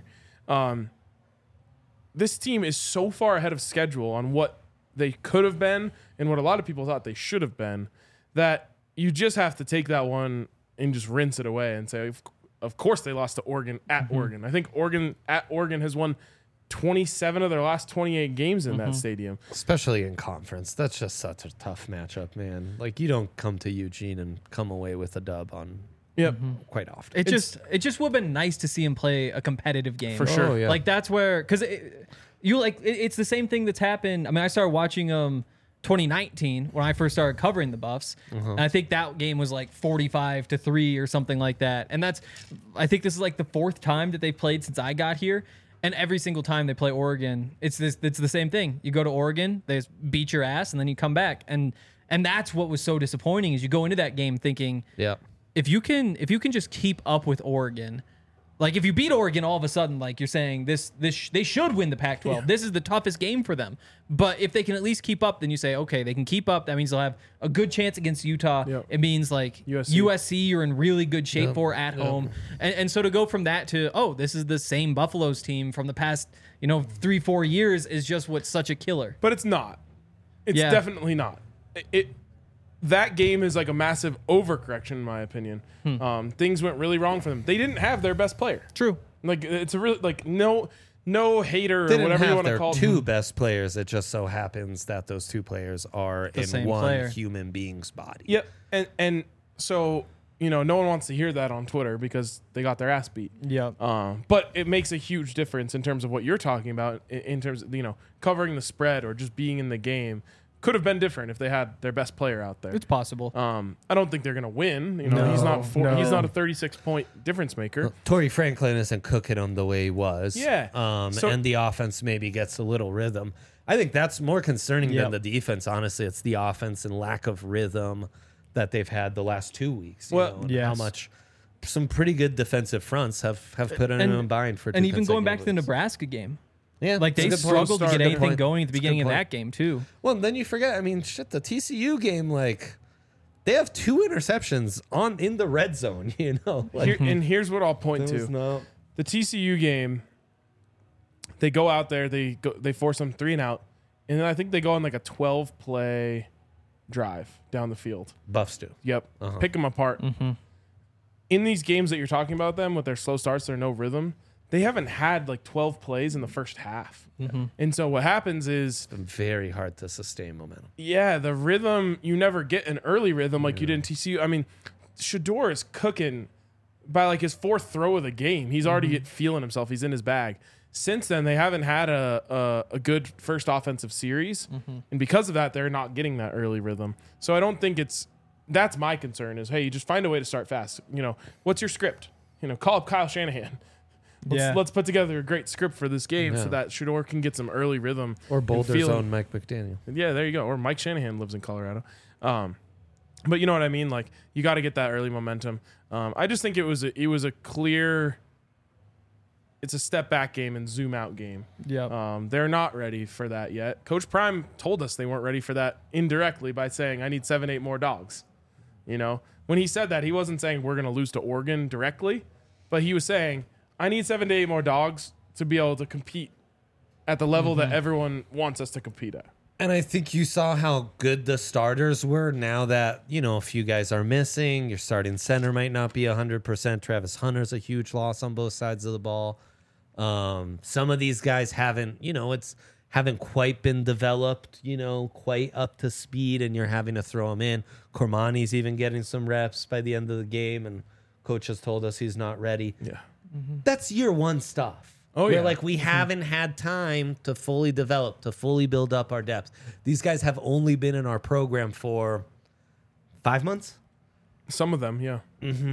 This team is so far ahead of schedule on what they could have been and what a lot of people thought they should have been that you just have to take that one and just rinse it away and say, of course they lost to Oregon at Oregon. I think Oregon at Oregon has won 27 of their last 28 games in that stadium. Especially in conference. That's just such a tough matchup, man. Like, you don't come to Eugene and come away with a dub on quite often. It just would have been nice to see him play a competitive game. For sure. Oh, yeah. Like, that's where, because it's the same thing that's happened. I mean, I started watching 2019 when I first started covering the Buffs, and I think that game was like 45-3 or something like that. And I think this is like the 4th time that they've played since I got here. And every single time they play Oregon, it's the same thing. You go to Oregon, they just beat your ass, and then you come back. And that's what was so disappointing is you go into that game thinking, if you can just keep up with Oregon, like if you beat Oregon all of a sudden, like you're saying they should win the Pac-12. Yeah. This is the toughest game for them. But if they can at least keep up, then you say, okay, they can keep up. That means they'll have a good chance against Utah. Yep. It means like USC you're in really good shape for at home. And so to go from that to, oh, this is the same Buffaloes team from the past, 3-4 years is just what's such a killer. But it's not. It's definitely not. That game is like a massive overcorrection, in my opinion. Things went really wrong for them. They didn't have their best player. True. Like it's a really no hater or whatever you want to call them. Two best players. It just so happens that those two players are in one human being's body. Yep. And so no one wants to hear that on Twitter because they got their ass beat. Yep. But it makes a huge difference in terms of what you're talking about in terms of covering the spread or just being in the game. Could have been different if they had their best player out there. It's possible. I don't think they're going to win. He's not he's not a 36-point difference maker. Well, Torrey Franklin isn't cooking them the way he was. Yeah. And the offense maybe gets a little rhythm. I think that's more concerning than the defense. Honestly, it's the offense and lack of rhythm that they've had the last 2 weeks. How much some pretty good defensive fronts have put in a bind for 2 and even going back weeks. to the Nebraska game. Yeah, like they struggled to get anything going at the beginning of that game too. Well, and then you forget. I mean, the TCU game, like they have 2 interceptions in the red zone. And here's what I'll point to: the TCU game. They go out there, they force them 3 and out, and then I think they go on like a 12-play drive down the field. Buffs do. Yep, pick them apart. In these games that you're talking about, them with their slow starts, their no rhythm. They haven't had like 12 plays in the first half. And so what happens is... It's been very hard to sustain momentum. Yeah, the rhythm, you never get an early rhythm like you did in TCU. I mean, Shedeur is cooking by like his 4th throw of the game. He's already feeling himself. He's in his bag. Since then, they haven't had a good first offensive series. And because of that, they're not getting that early rhythm. So I don't think that's my concern is, hey, you just find a way to start fast. What's your script? Call up Kyle Shanahan. Let's put together a great script for this game so that Shedeur can get some early rhythm. Or Boulder's own Mike McDaniel. Yeah, there you go. Or Mike Shanahan lives in Colorado. But you know what I mean? Like, you got to get that early momentum. I just think it was a clear... It's a step back game and zoom out game. Yeah. They're not ready for that yet. Coach Prime told us they weren't ready for that indirectly by saying, I need 7-8 more dogs. When he said that, he wasn't saying we're going to lose to Oregon directly, but he was saying... I need 7 to 8 more dogs to be able to compete at the level that everyone wants us to compete at. And I think you saw how good the starters were now that, a few guys are missing. Your starting center might not be 100%. Travis Hunter's a huge loss on both sides of the ball. Some of these guys haven't quite been developed, quite up to speed, and you're having to throw them in. Cormani's even getting some reps by the end of the game, and coach has told us he's not ready. Yeah. That's year 1 stuff. We haven't had time to fully develop, to fully build up our depth. These guys have only been in our program for 5 months. Some of them, yeah.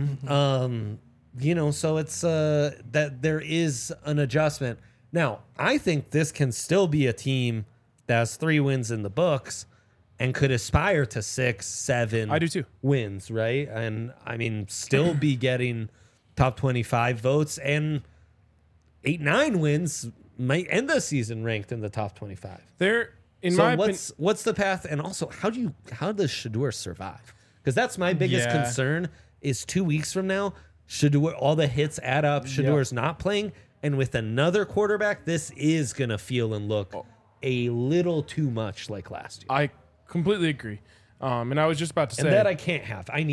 So it's that there is an adjustment. Now, I think this can still be a team that has 3 wins in the books and could aspire to 6, 7 I do too. Wins, right? And I mean, still be getting top 25 votes, and 8-9 wins might end the season ranked in the top 25. What's the path? And also, how does Shedeur survive? Because that's my biggest concern is 2 weeks from now, Shedeur, all the hits add up. Shedeur's not playing, and with another quarterback, this is gonna feel and look a little too much like last year. I completely agree. And I was just about to say that I can't have. I need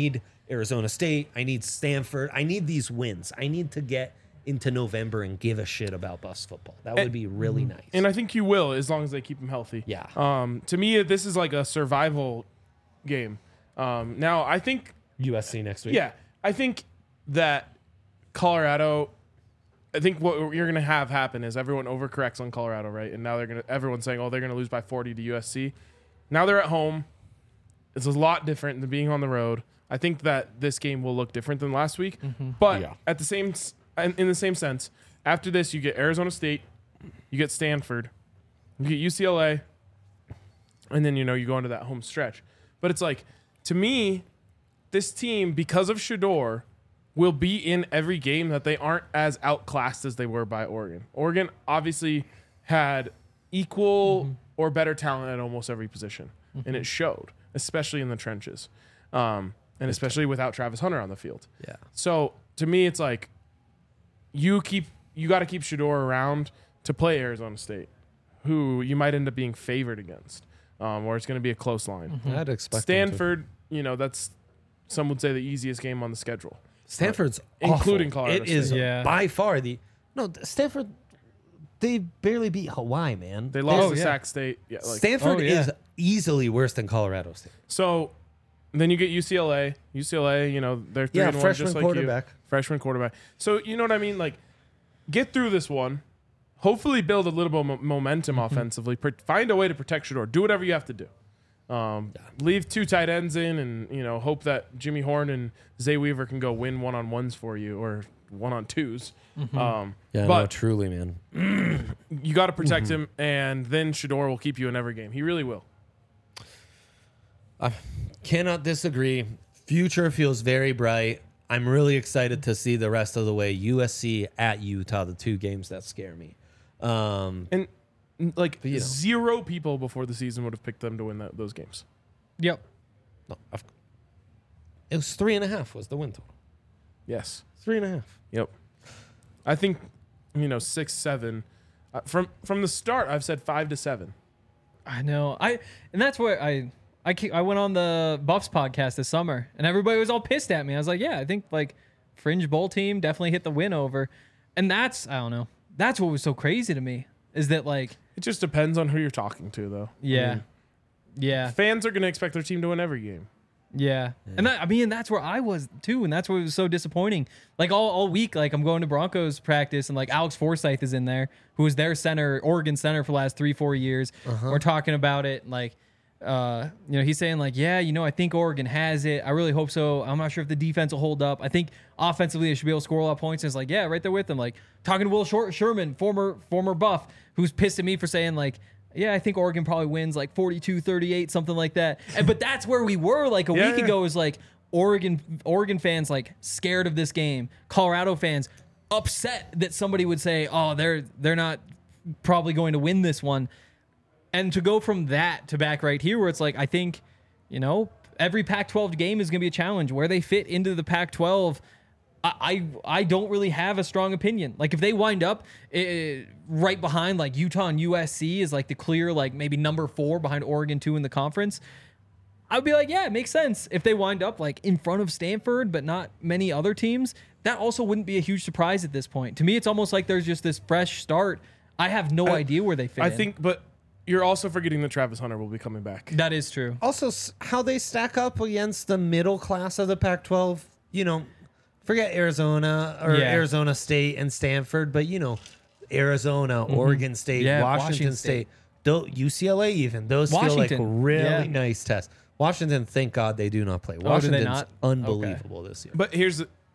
Arizona State. I need Stanford. I need these wins. I need to get into November and give a shit about bus football. That would be really nice. And I think you will, as long as they keep him healthy. Yeah. To me, this is like a survival game. Now, I think, USC next week. yeah, I think that Colorado. I think what you're going to have happen is everyone overcorrects on Colorado, right? And now everyone's saying, oh, they're going to lose by 40 to USC. Now they're at home. It's a lot different than being on the road. I think that this game will look different than last week. But at the same, in the same sense, after this, you get Arizona State, you get Stanford, you get UCLA, and then, you go into that home stretch. But it's like, to me, this team, because of Shedeur, will be in every game that they aren't as outclassed as they were by Oregon. Oregon obviously had equal or better talent at almost every position, and it showed, especially in the trenches, and especially without Travis Hunter on the field. Yeah. So to me, it's like you got to keep Shedeur around to play Arizona State, who you might end up being favored against, or it's going to be a close line. I'd expect them to. Stanford, that's some would say the easiest game on the schedule. Stanford's including awful. Colorado It is State. by far Stanford. They barely beat Hawaii, man. They lost to Sac State. Yeah, Stanford is easily worse than Colorado State. So then you get UCLA. UCLA, they're 3-1 freshman just like quarterback. you. Freshman quarterback. So you know what I mean? Like, get through this one. Hopefully build a little bit of momentum offensively. Find a way to protect Shedeur. Do whatever you have to do. Leave 2 tight ends in and, hope that Jimmy Horn and Zay Weaver can go win one-on-ones for you or one-on-twos. But truly, man. you got to protect him, and then Shedeur will keep you in every game. He really will. I cannot disagree. Future feels very bright. I'm really excited to see the rest of the way. USC at Utah, the 2 games that scare me. And zero people before the season would have picked them to win those games. Yep. No, it was 3.5 was the win total. Yes. 3.5. Yep. I think 6, 7. From the start, I've said 5 to 7. I know. And that's where I went on the Buffs podcast this summer, and everybody was all pissed at me. I was like, yeah, I think fringe bowl team definitely hit the win over, and that's, I don't know. That's what was so crazy to me is that it just depends on who you're talking to, though. Yeah. Fans are going to expect their team to win every game. Yeah. And that's where I was too. And that's what was so disappointing. All week, I'm going to Broncos practice and Alex Forsyth is in there, who was their center, Oregon center for the last 3-4 years. We're talking about it. He's saying I think Oregon has it. I really hope so. I'm not sure if the defense will hold up. I think offensively they should be able to score a lot of points. And it's right there with them. Talking to Will Sherman, former Buff, who's pissed at me for saying I think Oregon probably wins 42-38, something like that. But that's where we were a week ago is Oregon fans scared of this game. Colorado fans upset that somebody would say, oh, they're not probably going to win this one. And to go from that to back right here where it's I think, every Pac-12 game is going to be a challenge. Where they fit into the Pac-12, I don't really have a strong opinion. If they wind up right behind Utah and USC is the clear maybe number 4 behind Oregon 2 in the conference, I'd be yeah, it makes sense. If they wind up in front of Stanford but not many other teams, that also wouldn't be a huge surprise at this point. To me, it's almost there's just this fresh start. I have no idea where they fit. I think, but you're also forgetting that Travis Hunter will be coming back. That is true. Also, how they stack up against the middle class of the Pac-12, forget Arizona or Arizona State and Stanford, but Arizona, Oregon State, Washington State, UCLA even. Those feel like really nice tests. Washington, thank God they do not play. Washington's unbelievable this year. But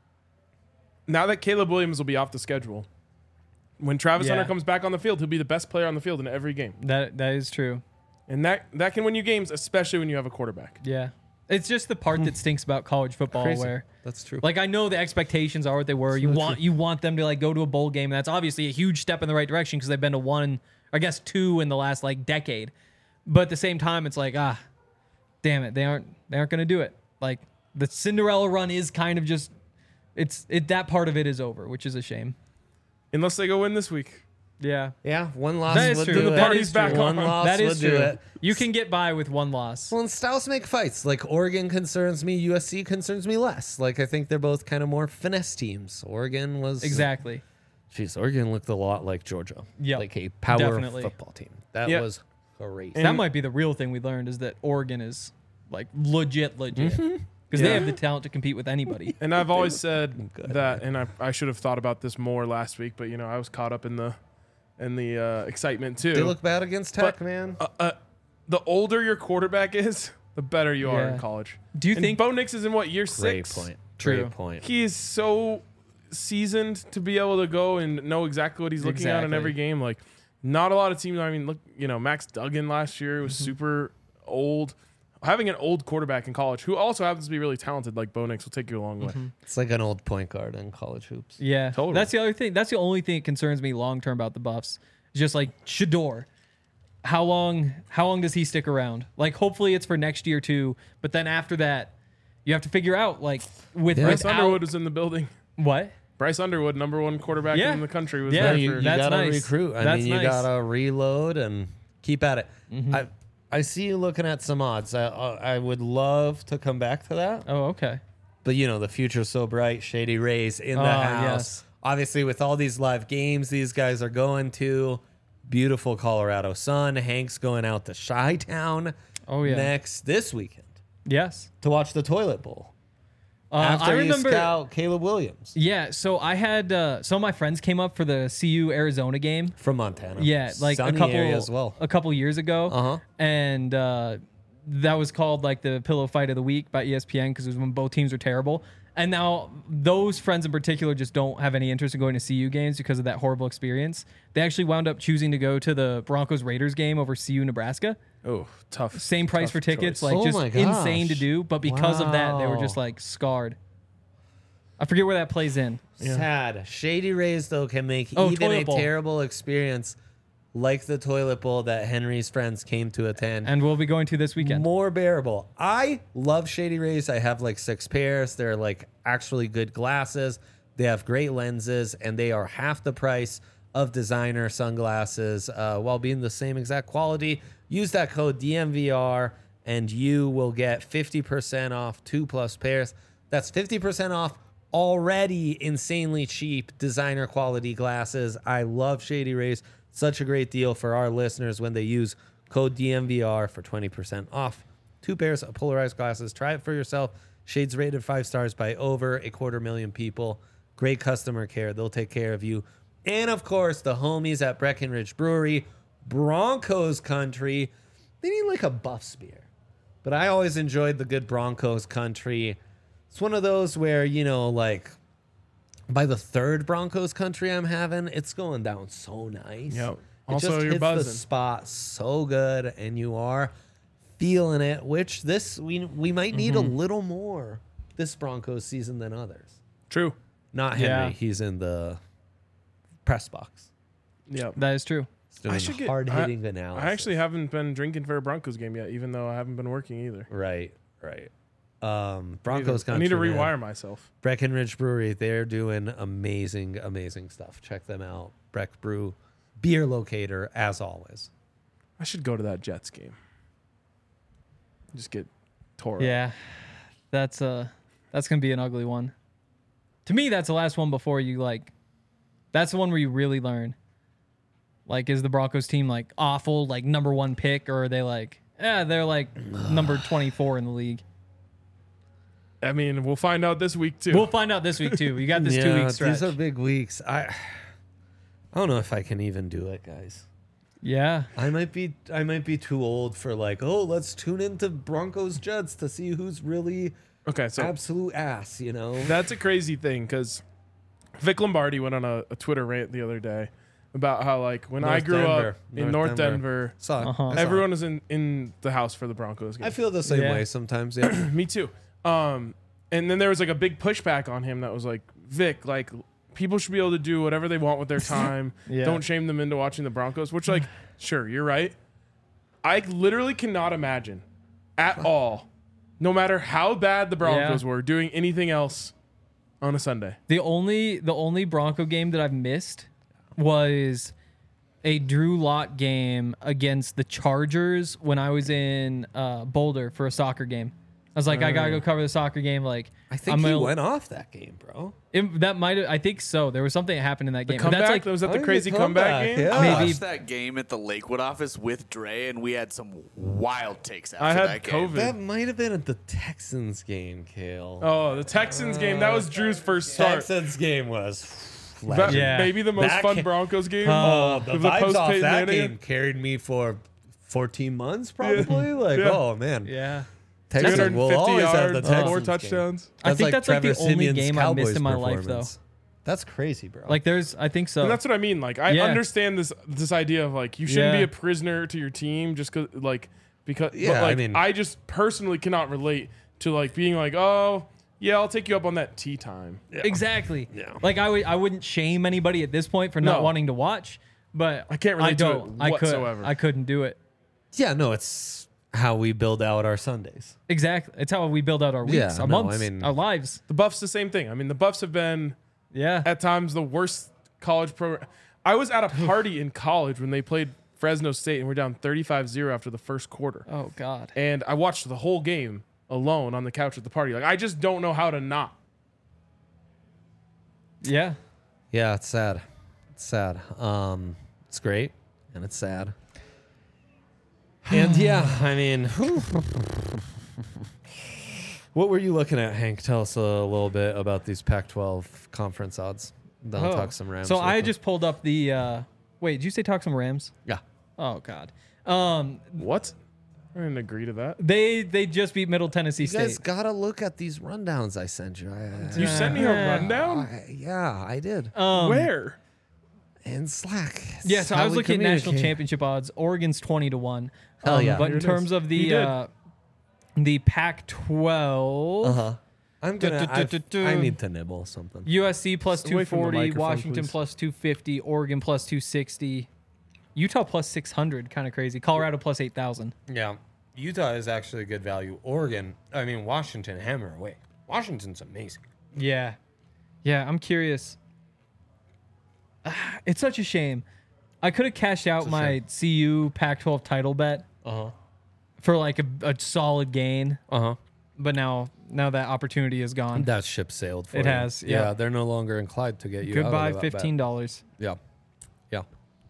now that Caleb Williams will be off the schedule, when Travis Hunter comes back on the field, he'll be the best player on the field in every game. That is true. And that can win you games, especially when you have a quarterback. Yeah. It's just the part that stinks about college football. Crazy. Where that's true. I know the expectations are what they were. You want them to go to a bowl game. That's obviously a huge step in the right direction because they've been to 1, I guess 2 in the last decade. But at the same time, it's damn it, they aren't going to do it. The Cinderella run is kind of just that part of it is over, which is a shame. Unless they go win this week. Yeah. Yeah, one loss That is would true. do The it. party's back One on. loss That would is do true. it. You can get by with one loss. Well, and styles make fights. Like Oregon concerns me, USC concerns me less. Like I think they're both kind of more finesse teams. Oregon was Exactly. Jeez, Oregon looked a lot like Georgia. Yep, Like a power definitely. football team. That Yep. was great. That might be the real thing we learned is that Oregon is like legit. Because they Yeah. have the talent to compete with anybody. And I've always said Good. that, and I should have thought about this more last week, but I was caught up in the excitement too. They look bad against Tech, But- man. The older your quarterback is, the better you are in Yeah. college. Do you and think? Bo Nix is in what, year Great 6? point. True. Great point. He is so seasoned to be able to go and know exactly what he's looking at in Exactly. every game. Like, not a lot of teams. I mean, look, Max Duggan last year was super old. Having an old quarterback in college who also happens to be really talented, like Bo Nix, will take you a long way. It's like an old point guard in college hoops. Yeah, Totally. That's the other thing. That's the only thing that concerns me long term about the Buffs. It's just like Shador. How long does he stick around? Like, hopefully it's for next year too. But then after that, you have to figure out like Bryce without Underwood was in the building. what. Bryce Underwood, number 1 quarterback Yeah. in the country, was Yeah, there you for. That's gotta nice. recruit. I That's mean, you nice. gotta reload and keep at it. I see you looking at some odds. I would love to come back to that, Oh, okay. but the future's so bright. Shady Rays in the Oh, house. yes. Obviously, with all these live games these guys are going to, beautiful Colorado sun. Hank's going out to Chi-Town. Oh, yeah. this weekend Yes. to watch the Toilet Bowl. I After remember. you scout Caleb Williams Yeah. So I had some of my friends came up for the CU Arizona game. from Montana. Yeah, like Sunny a couple area as well. a couple years ago. Uh-huh. And that was called like the pillow fight of the week by ESPN because it was when both teams were terrible. And now those friends in particular just don't have any interest in going to CU games because of that horrible experience. They actually wound up choosing to go to the Broncos Raiders game over CU Nebraska. Oh, tough. Same price tough for tickets, choice. like Oh just my gosh. insane to do. But because of that, they were just Wow. like scarred. I forget where that plays in. Sad. Shady Rays, though, can make Oh, even a Toilet Bowl. terrible experience like the Toilet Bowl that Henry's friends came to attend And we'll be going to this weekend. more bearable. I love Shady Rays. I have like 6 pairs. They're like actually good glasses. They have great lenses, and they are half the price of designer sunglasses while being the same exact quality. Use that code DMVR, and you will get 50% off 2+ pairs. That's 50% off already insanely cheap designer quality glasses. I love Shady Rays. Such a great deal for our listeners when they use code DMVR for 20% off. 2 pairs of polarized glasses. Try it for yourself. Shades rated 5 stars by over 250,000 people. Great customer care. They'll take care of you. And of course, the homies at Breckenridge Brewery, Broncos country. They need like a Buffs beer. But I always enjoyed the good Broncos country. It's one of those where, like by the 3rd Broncos country I'm having, it's going down so nice. Yep. It Also, just you're hits buzzing. the spot so good, and you are feeling it, which we might need a little more this Broncos season than others. True. Not Henry. Yeah. He's in the press box. Yeah. That is true. He's doing I should get hard-hitting analysis. I actually haven't been drinking for a Broncos game yet, even though I haven't been working either. Right. Broncos country. I need to man. rewire myself. Breckenridge Brewery, they're doing amazing, amazing stuff. Check them out. Breck Brew, beer locator, as always. I should go to that Jets game. Just get tore up. Yeah, that's gonna be an ugly one. To me, that's the last one before you like. That's the one where you really learn. Like, is the Broncos team like awful, like number 1 pick, or are they like, they're like number 24 in the league? I mean, we'll find out this week too. We'll find out this week too. We got this 2-week stretch. These are big weeks. I don't know if I can even do it, guys. Yeah, I might be too old for like, let's tune into Broncos Jets to see who's really Okay, so absolute ass, that's a crazy thing because Vic Lombardi went on a Twitter rant the other day about how like when I North grew Denver. up in North Denver, Saw it. Uh-huh. I saw everyone it. was in the house for the Broncos game. I feel the same Yeah. way sometimes. Yeah. Me too. And then there was like a big pushback on him that was like, Vic, like people should be able to do whatever they want with their time. Yeah. Don't shame them into watching the Broncos, which like, sure, you're right. I literally cannot imagine at all, no matter how bad the Broncos were, doing anything else on a Sunday. the only Bronco game that I've missed was a Drew Lock game against the Chargers when I was in Boulder for a soccer game. I was like, I gotta go cover the soccer game. Like, I think he went off that game, bro. That might have. I think so. There was something that happened in that game. Comeback? That's like, Was that the Oh, crazy the comeback comeback, game? yeah. I Maybe- watched that game at the Lakewood office with Dre, and we had some wild takes after I had that game. COVID. That might have been at the Texans game, Kale. Oh, the Texans game. That was Drew's first start. Texans game was That- Yeah. Maybe the most That fun ca- Broncos game. Oh, the With the vibes off post-Peyton that Manning. game carried me for 14 months, probably. Like, Yeah. oh man, yeah. Texans will 250 always have the yards, Texans 4 game. touchdowns. I think that's like the Trevor only Siemian's game I missed in my Cowboys life, though. performance. That's crazy, bro. Like, I think so. And that's what I mean. Like, I Yeah. understand this idea of like you shouldn't Yeah. be a prisoner to your team just because Yeah, but, like, I mean- I just personally cannot relate to like being like, oh yeah, I'll take you up on that tea time. Exactly. Yeah. Like, I wouldn't shame anybody at this point for not No. wanting to watch, but I can't relate to it don't. whatsoever. I couldn't do it. yeah, no, it's how we build out our Sundays. Exactly. It's how we build out our weeks, Yeah, our no, months, I mean- our lives. The Buffs the same thing. I mean, the Buffs have been Yeah. at times the worst college program. I was at a party in college when they played Fresno State and we're down 35-0 after the first quarter. Oh God. And I watched the whole game alone on the couch at the party. Like, I just don't know how to not. Yeah. Yeah, it's sad. It's sad. It's great and it's sad. And yeah, I mean, what were you looking at, Hank? Tell us a little bit about these Pac-12 conference odds. Then I'll talk some Rams. So real I quick. just pulled up the. Wait, did you say talk some Rams? yeah. Oh God. What? I didn't agree to that. They just beat Middle Tennessee You guys State. gotta look at these rundowns I sent you. You sent me a rundown? Yeah, I did. Where? In Slack. It's Yeah, so I how was we looking at national communicate. championship odds. Oregon's 20-1. Hell yeah. But Here in it terms is. of You did. the Pac-12, Uh-huh. I'm gonna. Du-du-du-du-du. I need to nibble something. USC plus Away from the 240, microphone, Washington please. plus 250, Oregon plus 260, Utah plus 600, kind of crazy. Colorado plus 8,000. Yeah, Utah is actually a good value. Washington hammer away. Washington's amazing. Yeah. Yeah, I'm curious. It's such a shame. I could have cashed out my CU Pac-12 title bet Uh for like a solid gain, huh. but now that opportunity is gone. That ship sailed for It you. has, yeah. They're no longer inclined to get you. Goodbye, out of that bet. $15. Yeah, yeah.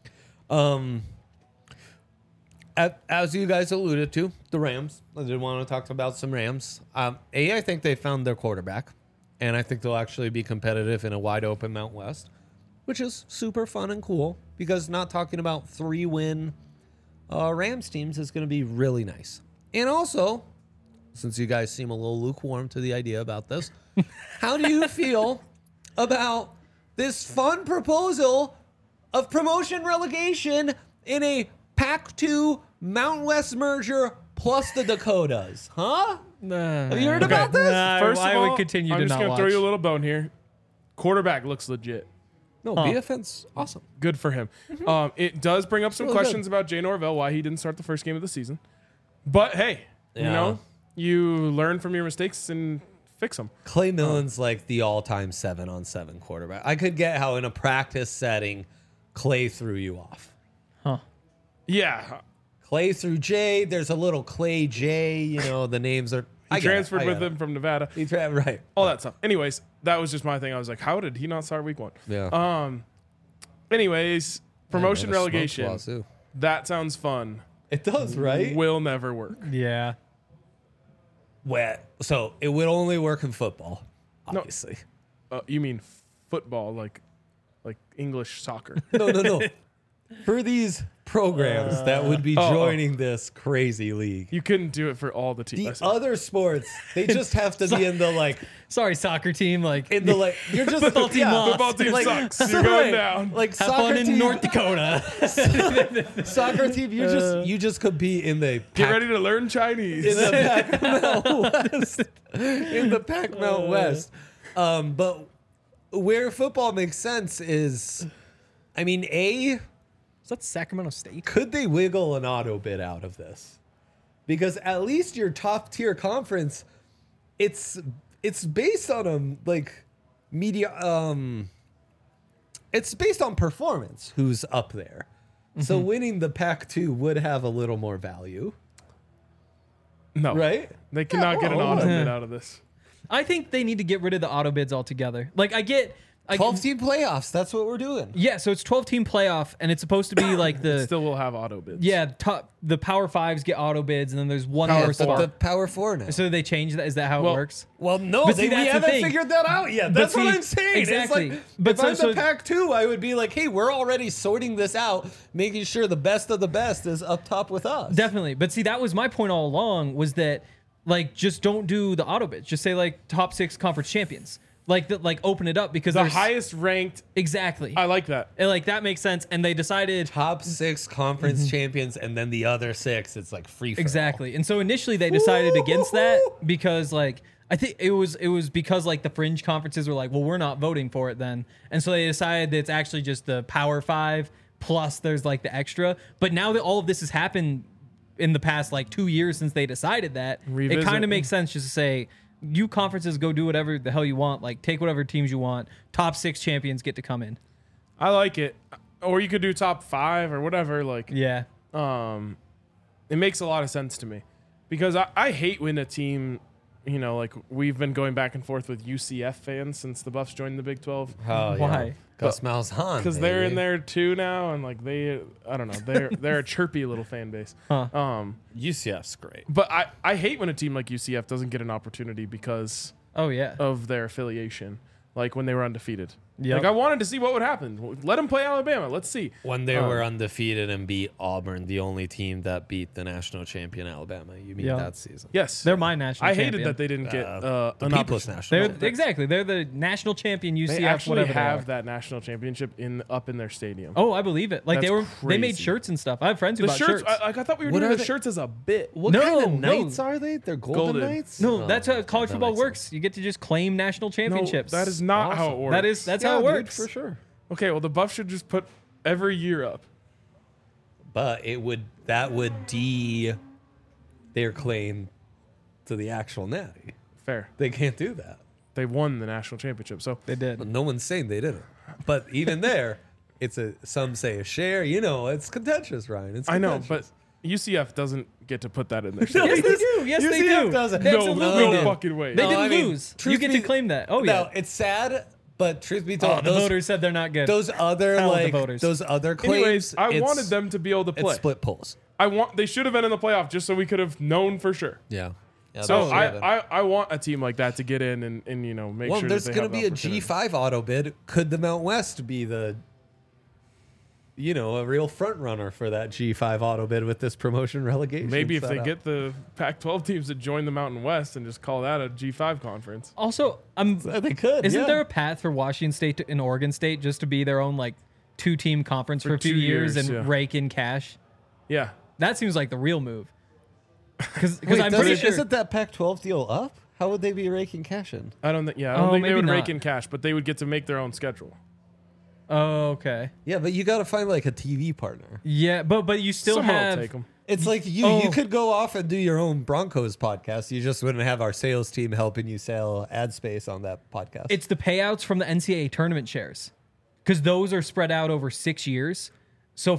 As you guys alluded to, the Rams. I did want to talk about some Rams. I think they found their quarterback, and I think they'll actually be competitive in a wide open Mount West, which is super fun and cool because not talking about 3-win Rams teams is going to be really nice. And also, since you guys seem a little lukewarm to the idea about this, how do you feel about this fun proposal of promotion relegation in a Pac-2 Mountain West merger plus the Dakotas? Huh? Have you heard about this? First of I all, would continue I'm to just not gonna watch. throw you a little bone here. Quarterback looks legit. No, BFN's awesome. Good for him. It does bring up some really questions about Jay Norvell, why he didn't start the first game of the season. But hey, you Yeah. know, you learn from your mistakes and fix them. Clay Millen's like the all-time 7-on-7 quarterback. I could get how in a practice setting, Clay threw you off. Yeah, Clay threw Jay. There's a little Clay J. You know, the names are. he transferred with him from Nevada. Right. All that stuff. Anyways, that was just my thing. I was like, how did he not start week 1? Yeah. Anyways, promotion Man, a smoke relegation. lawsuit. That sounds fun. It does, right? Will never work. Yeah. So it would only work in football, obviously. You mean football, like English soccer? No. For these programs that would be joining this crazy league. You couldn't do it for all the teams. The other sports, they just have to be in the like, Sorry, soccer team. Like, in the like. You're just Football team lost. Football team like- sucks. You're going down. Like have soccer fun in team, North Dakota. soccer team. You just compete in the Get ready to learn Chinese. in the Pac Mount West. In the Pac Mount West. But where football makes sense is, I mean, Is that Sacramento State? could they wiggle an auto bid out of this? Because at least your top tier conference, it's based on media. It's based on performance. Who's up there? So winning the Pac-2 would have a little more value, No, right? They cannot get an well, auto yeah. bid out of this. I think they need to get rid of the auto bids altogether. Like I get 12-team playoffs. That's what we're doing. Yeah, so it's 12-team playoff, and it's supposed to be like the Still will have auto bids. the Power Fives get auto bids, and then there's one Power more But spot. the Power 4 now. So they changed that. Is that how Well, it works? Well, no, But see, we that's the haven't thing. figured that out yet. But That's what see, I'm saying. exactly. It's like, But if so- I'm so- the Pac-2, I would be like, hey, we're already sorting this out, making sure the best of the best is up top with us. Definitely. But see, that was my point all along. Was that like just don't do the auto bids. Just say like top 6 conference champions. Like open it up because The there's highest ranked. exactly. I like that. And, like that makes sense. And they decided Top 6 conference champions, and then the other 6, it's like free for all. exactly. And so initially they decided against that because like I think it was because like the fringe conferences were like, well, we're not voting for it then. And so they decided that it's actually just the Power 5 plus there's like the extra. But now that all of this has happened in the past like 2 years since they decided that, Revisit. it kind of makes sense just to say you conferences go do whatever the hell you want, like take whatever teams you want. Top 6 champions get to come in. I like it. Or you could do top 5 or whatever. Like, Yeah. it makes a lot of sense to me because I hate when a team, you know, like we've been going back and forth with UCF fans since the Buffs joined the Big 12 Oh, yeah. Why? Gus Malzahn. because they're in baby. there too now, and like I don't know, they're a chirpy little fan base. Huh. UCF's great. But I hate when a team like UCF doesn't get an opportunity because Oh yeah. of their affiliation, like when they were undefeated. Yep. Like I wanted to see what would happen. Let them play Alabama. Let's see. When they were undefeated and beat Auburn, the only team that beat the national champion Alabama. You mean Yeah. that season? Yes, They're my national I champion. hated that they didn't get The an People's opportunity. National. They're exactly. They're the national champion UCF. They actually whatever they have are. that national championship up in their stadium. Oh, I believe it. Like That's they made crazy. shirts and stuff. I have friends who the bought shirts. shirts. I thought we were What doing are the they? shirts as a bit. What No, kind of no. knights are they? They're golden, Golden. knights? No, Oh, that's how college that football makes works. sense. You get to just claim national No, championships. that is not how it Awesome. works. That's Yeah, how it dude, works. for sure. Okay, well the Buffs should just put every year up. But that would their claim to the actual natty. Fair. They can't do that. They won the national championship. So They did. But no one's saying they didn't. But even there, it's some say a share. You know, it's contentious, Ryan. It's I know, contentious. but UCF doesn't get to put that in there. Yes, they do. Yes, they UCF do. doesn't. They no, absolutely no did. fucking way. They No, didn't I mean, lose. truth You get be- to claim that. Oh No, yeah. it's sad, but truth be Oh, told, the voters said they're not good. those other Hell with the like voters. those other claims. Anyways, I it's- wanted them to be able to It's play. split polls. They should have been in the playoff just so we could have known for sure. Yeah. So that's I want a team like that to get in and you know make well, sure there's that they going to have be a opportunity. G5 auto bid. Could the Mount West be the, a real front runner for that G5 auto bid with this promotion relegation? Maybe if they setup? get the Pac-12 teams to join the Mountain West and just call that a G5 conference. Also, They could. isn't yeah. there a path for Washington State and Oregon State just to be their own like 2-team conference for a few 2 years years, and yeah. rake in cash? Yeah. That seems like the real move. Because Wait, I'm pretty sure. Isn't that Pac-12 deal up? How would they be raking cash in? I don't think. Yeah, I Oh, don't think they maybe would rake not. in cash, but they would get to make their own schedule. Oh, okay. Yeah, but you got to find like a TV partner. Yeah, but you still Someone have. will take them. It's like you Oh. could go off and do your own Broncos podcast. You just wouldn't have our sales team helping you sell ad space on that podcast. It's the payouts from the NCAA tournament shares, because those are spread out over 6 years. So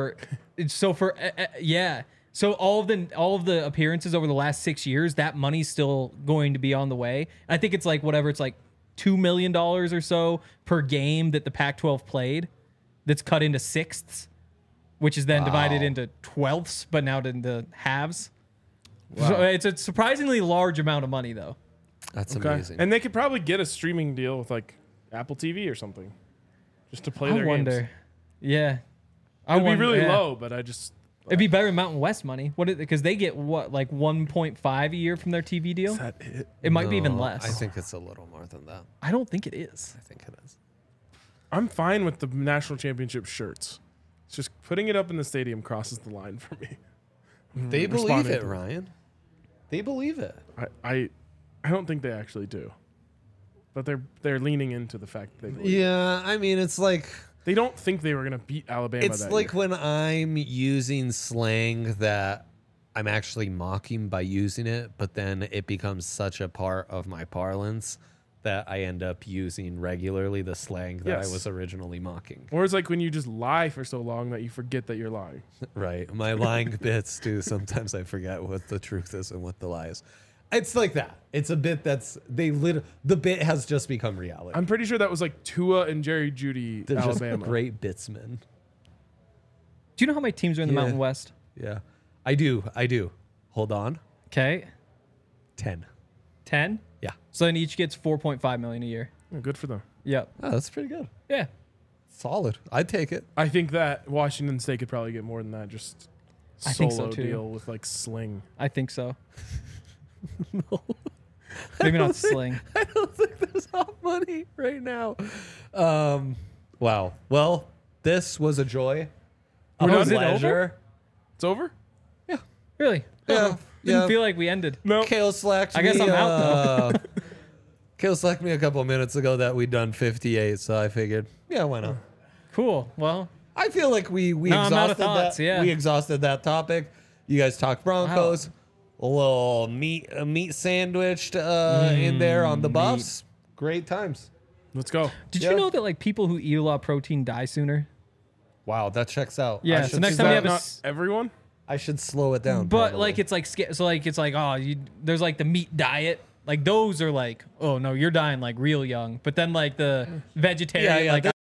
all of the appearances over the last 6 years, that money's still going to be on the way. I think it's like whatever, it's like $2 million or so per game that the Pac-12 played, that's cut into sixths, which is then divided into twelfths, but now into halves. So it's a surprisingly large amount of money, though. That's Okay. amazing. And they could probably get a streaming deal with like Apple TV or something, just to play I their wonder. games. Yeah. It'd be wonder- really yeah. low, but I just It'd be better than Mountain West money. Because they get what, like 1.5 a year from their TV deal? is that it? It might be even No, less. I think it's a little more than that. I don't think it is. I think it is. I'm fine with the national championship shirts. It's just putting it up in the stadium crosses the line for me. They believe responding it, to- Ryan. They believe it. I don't think they actually do, but they're leaning into the fact that they believe. Yeah, I mean, it's like They don't think they were gonna beat Alabama. it's that like year. when I'm using slang that I'm actually mocking by using it, but then it becomes such a part of my parlance that I end up using regularly, the slang that Yes. I was originally mocking. Or it's like when you just lie for so long that you forget that you're lying. Right. My lying bits too. Sometimes I forget what the truth is and what the lie is. It's like that. It's a bit that's the bit has just become reality. I'm pretty sure that was like Tua and Jerry Judy, They're Alabama. just great bitsmen. Do you know how many teams are in the Yeah. Mountain West? Yeah. I do. Hold on. Okay, 10. 10. Yeah. So then each gets 4.5 million a year. Yeah, good for them. Yep. Oh, that's pretty good. Yeah. Solid. I'd take it. I think that Washington State could probably get more than that. Just I think so, solo too. deal with like Sling. I think so. Maybe not Sling. I don't think there's enough money right now. Wow. Well, this was a joy. A We're done? Is it pleasure. It's over? Really? Yeah. Didn't Yeah. feel like we ended. No. Kale slacked I guess me, I'm out, Kale slacked me a couple minutes ago that we'd done 58, so I figured, yeah, why not? Cool. Well, I feel like we No, I'm out of exhausted thoughts, that. yeah. We exhausted that topic. You guys talked Broncos. A little meat sandwiched in there on the buffs. Great times. Let's go. did Yeah. you know that like people who eat a lot of protein die sooner? Wow, that checks out. Yeah, I so should, next Is time you that have a not s- everyone? I should slow it down. But probably. like it's like so like it's like oh there's like the meat diet. Like those are like oh no you're dying like real young. But then like the vegetarian yeah, like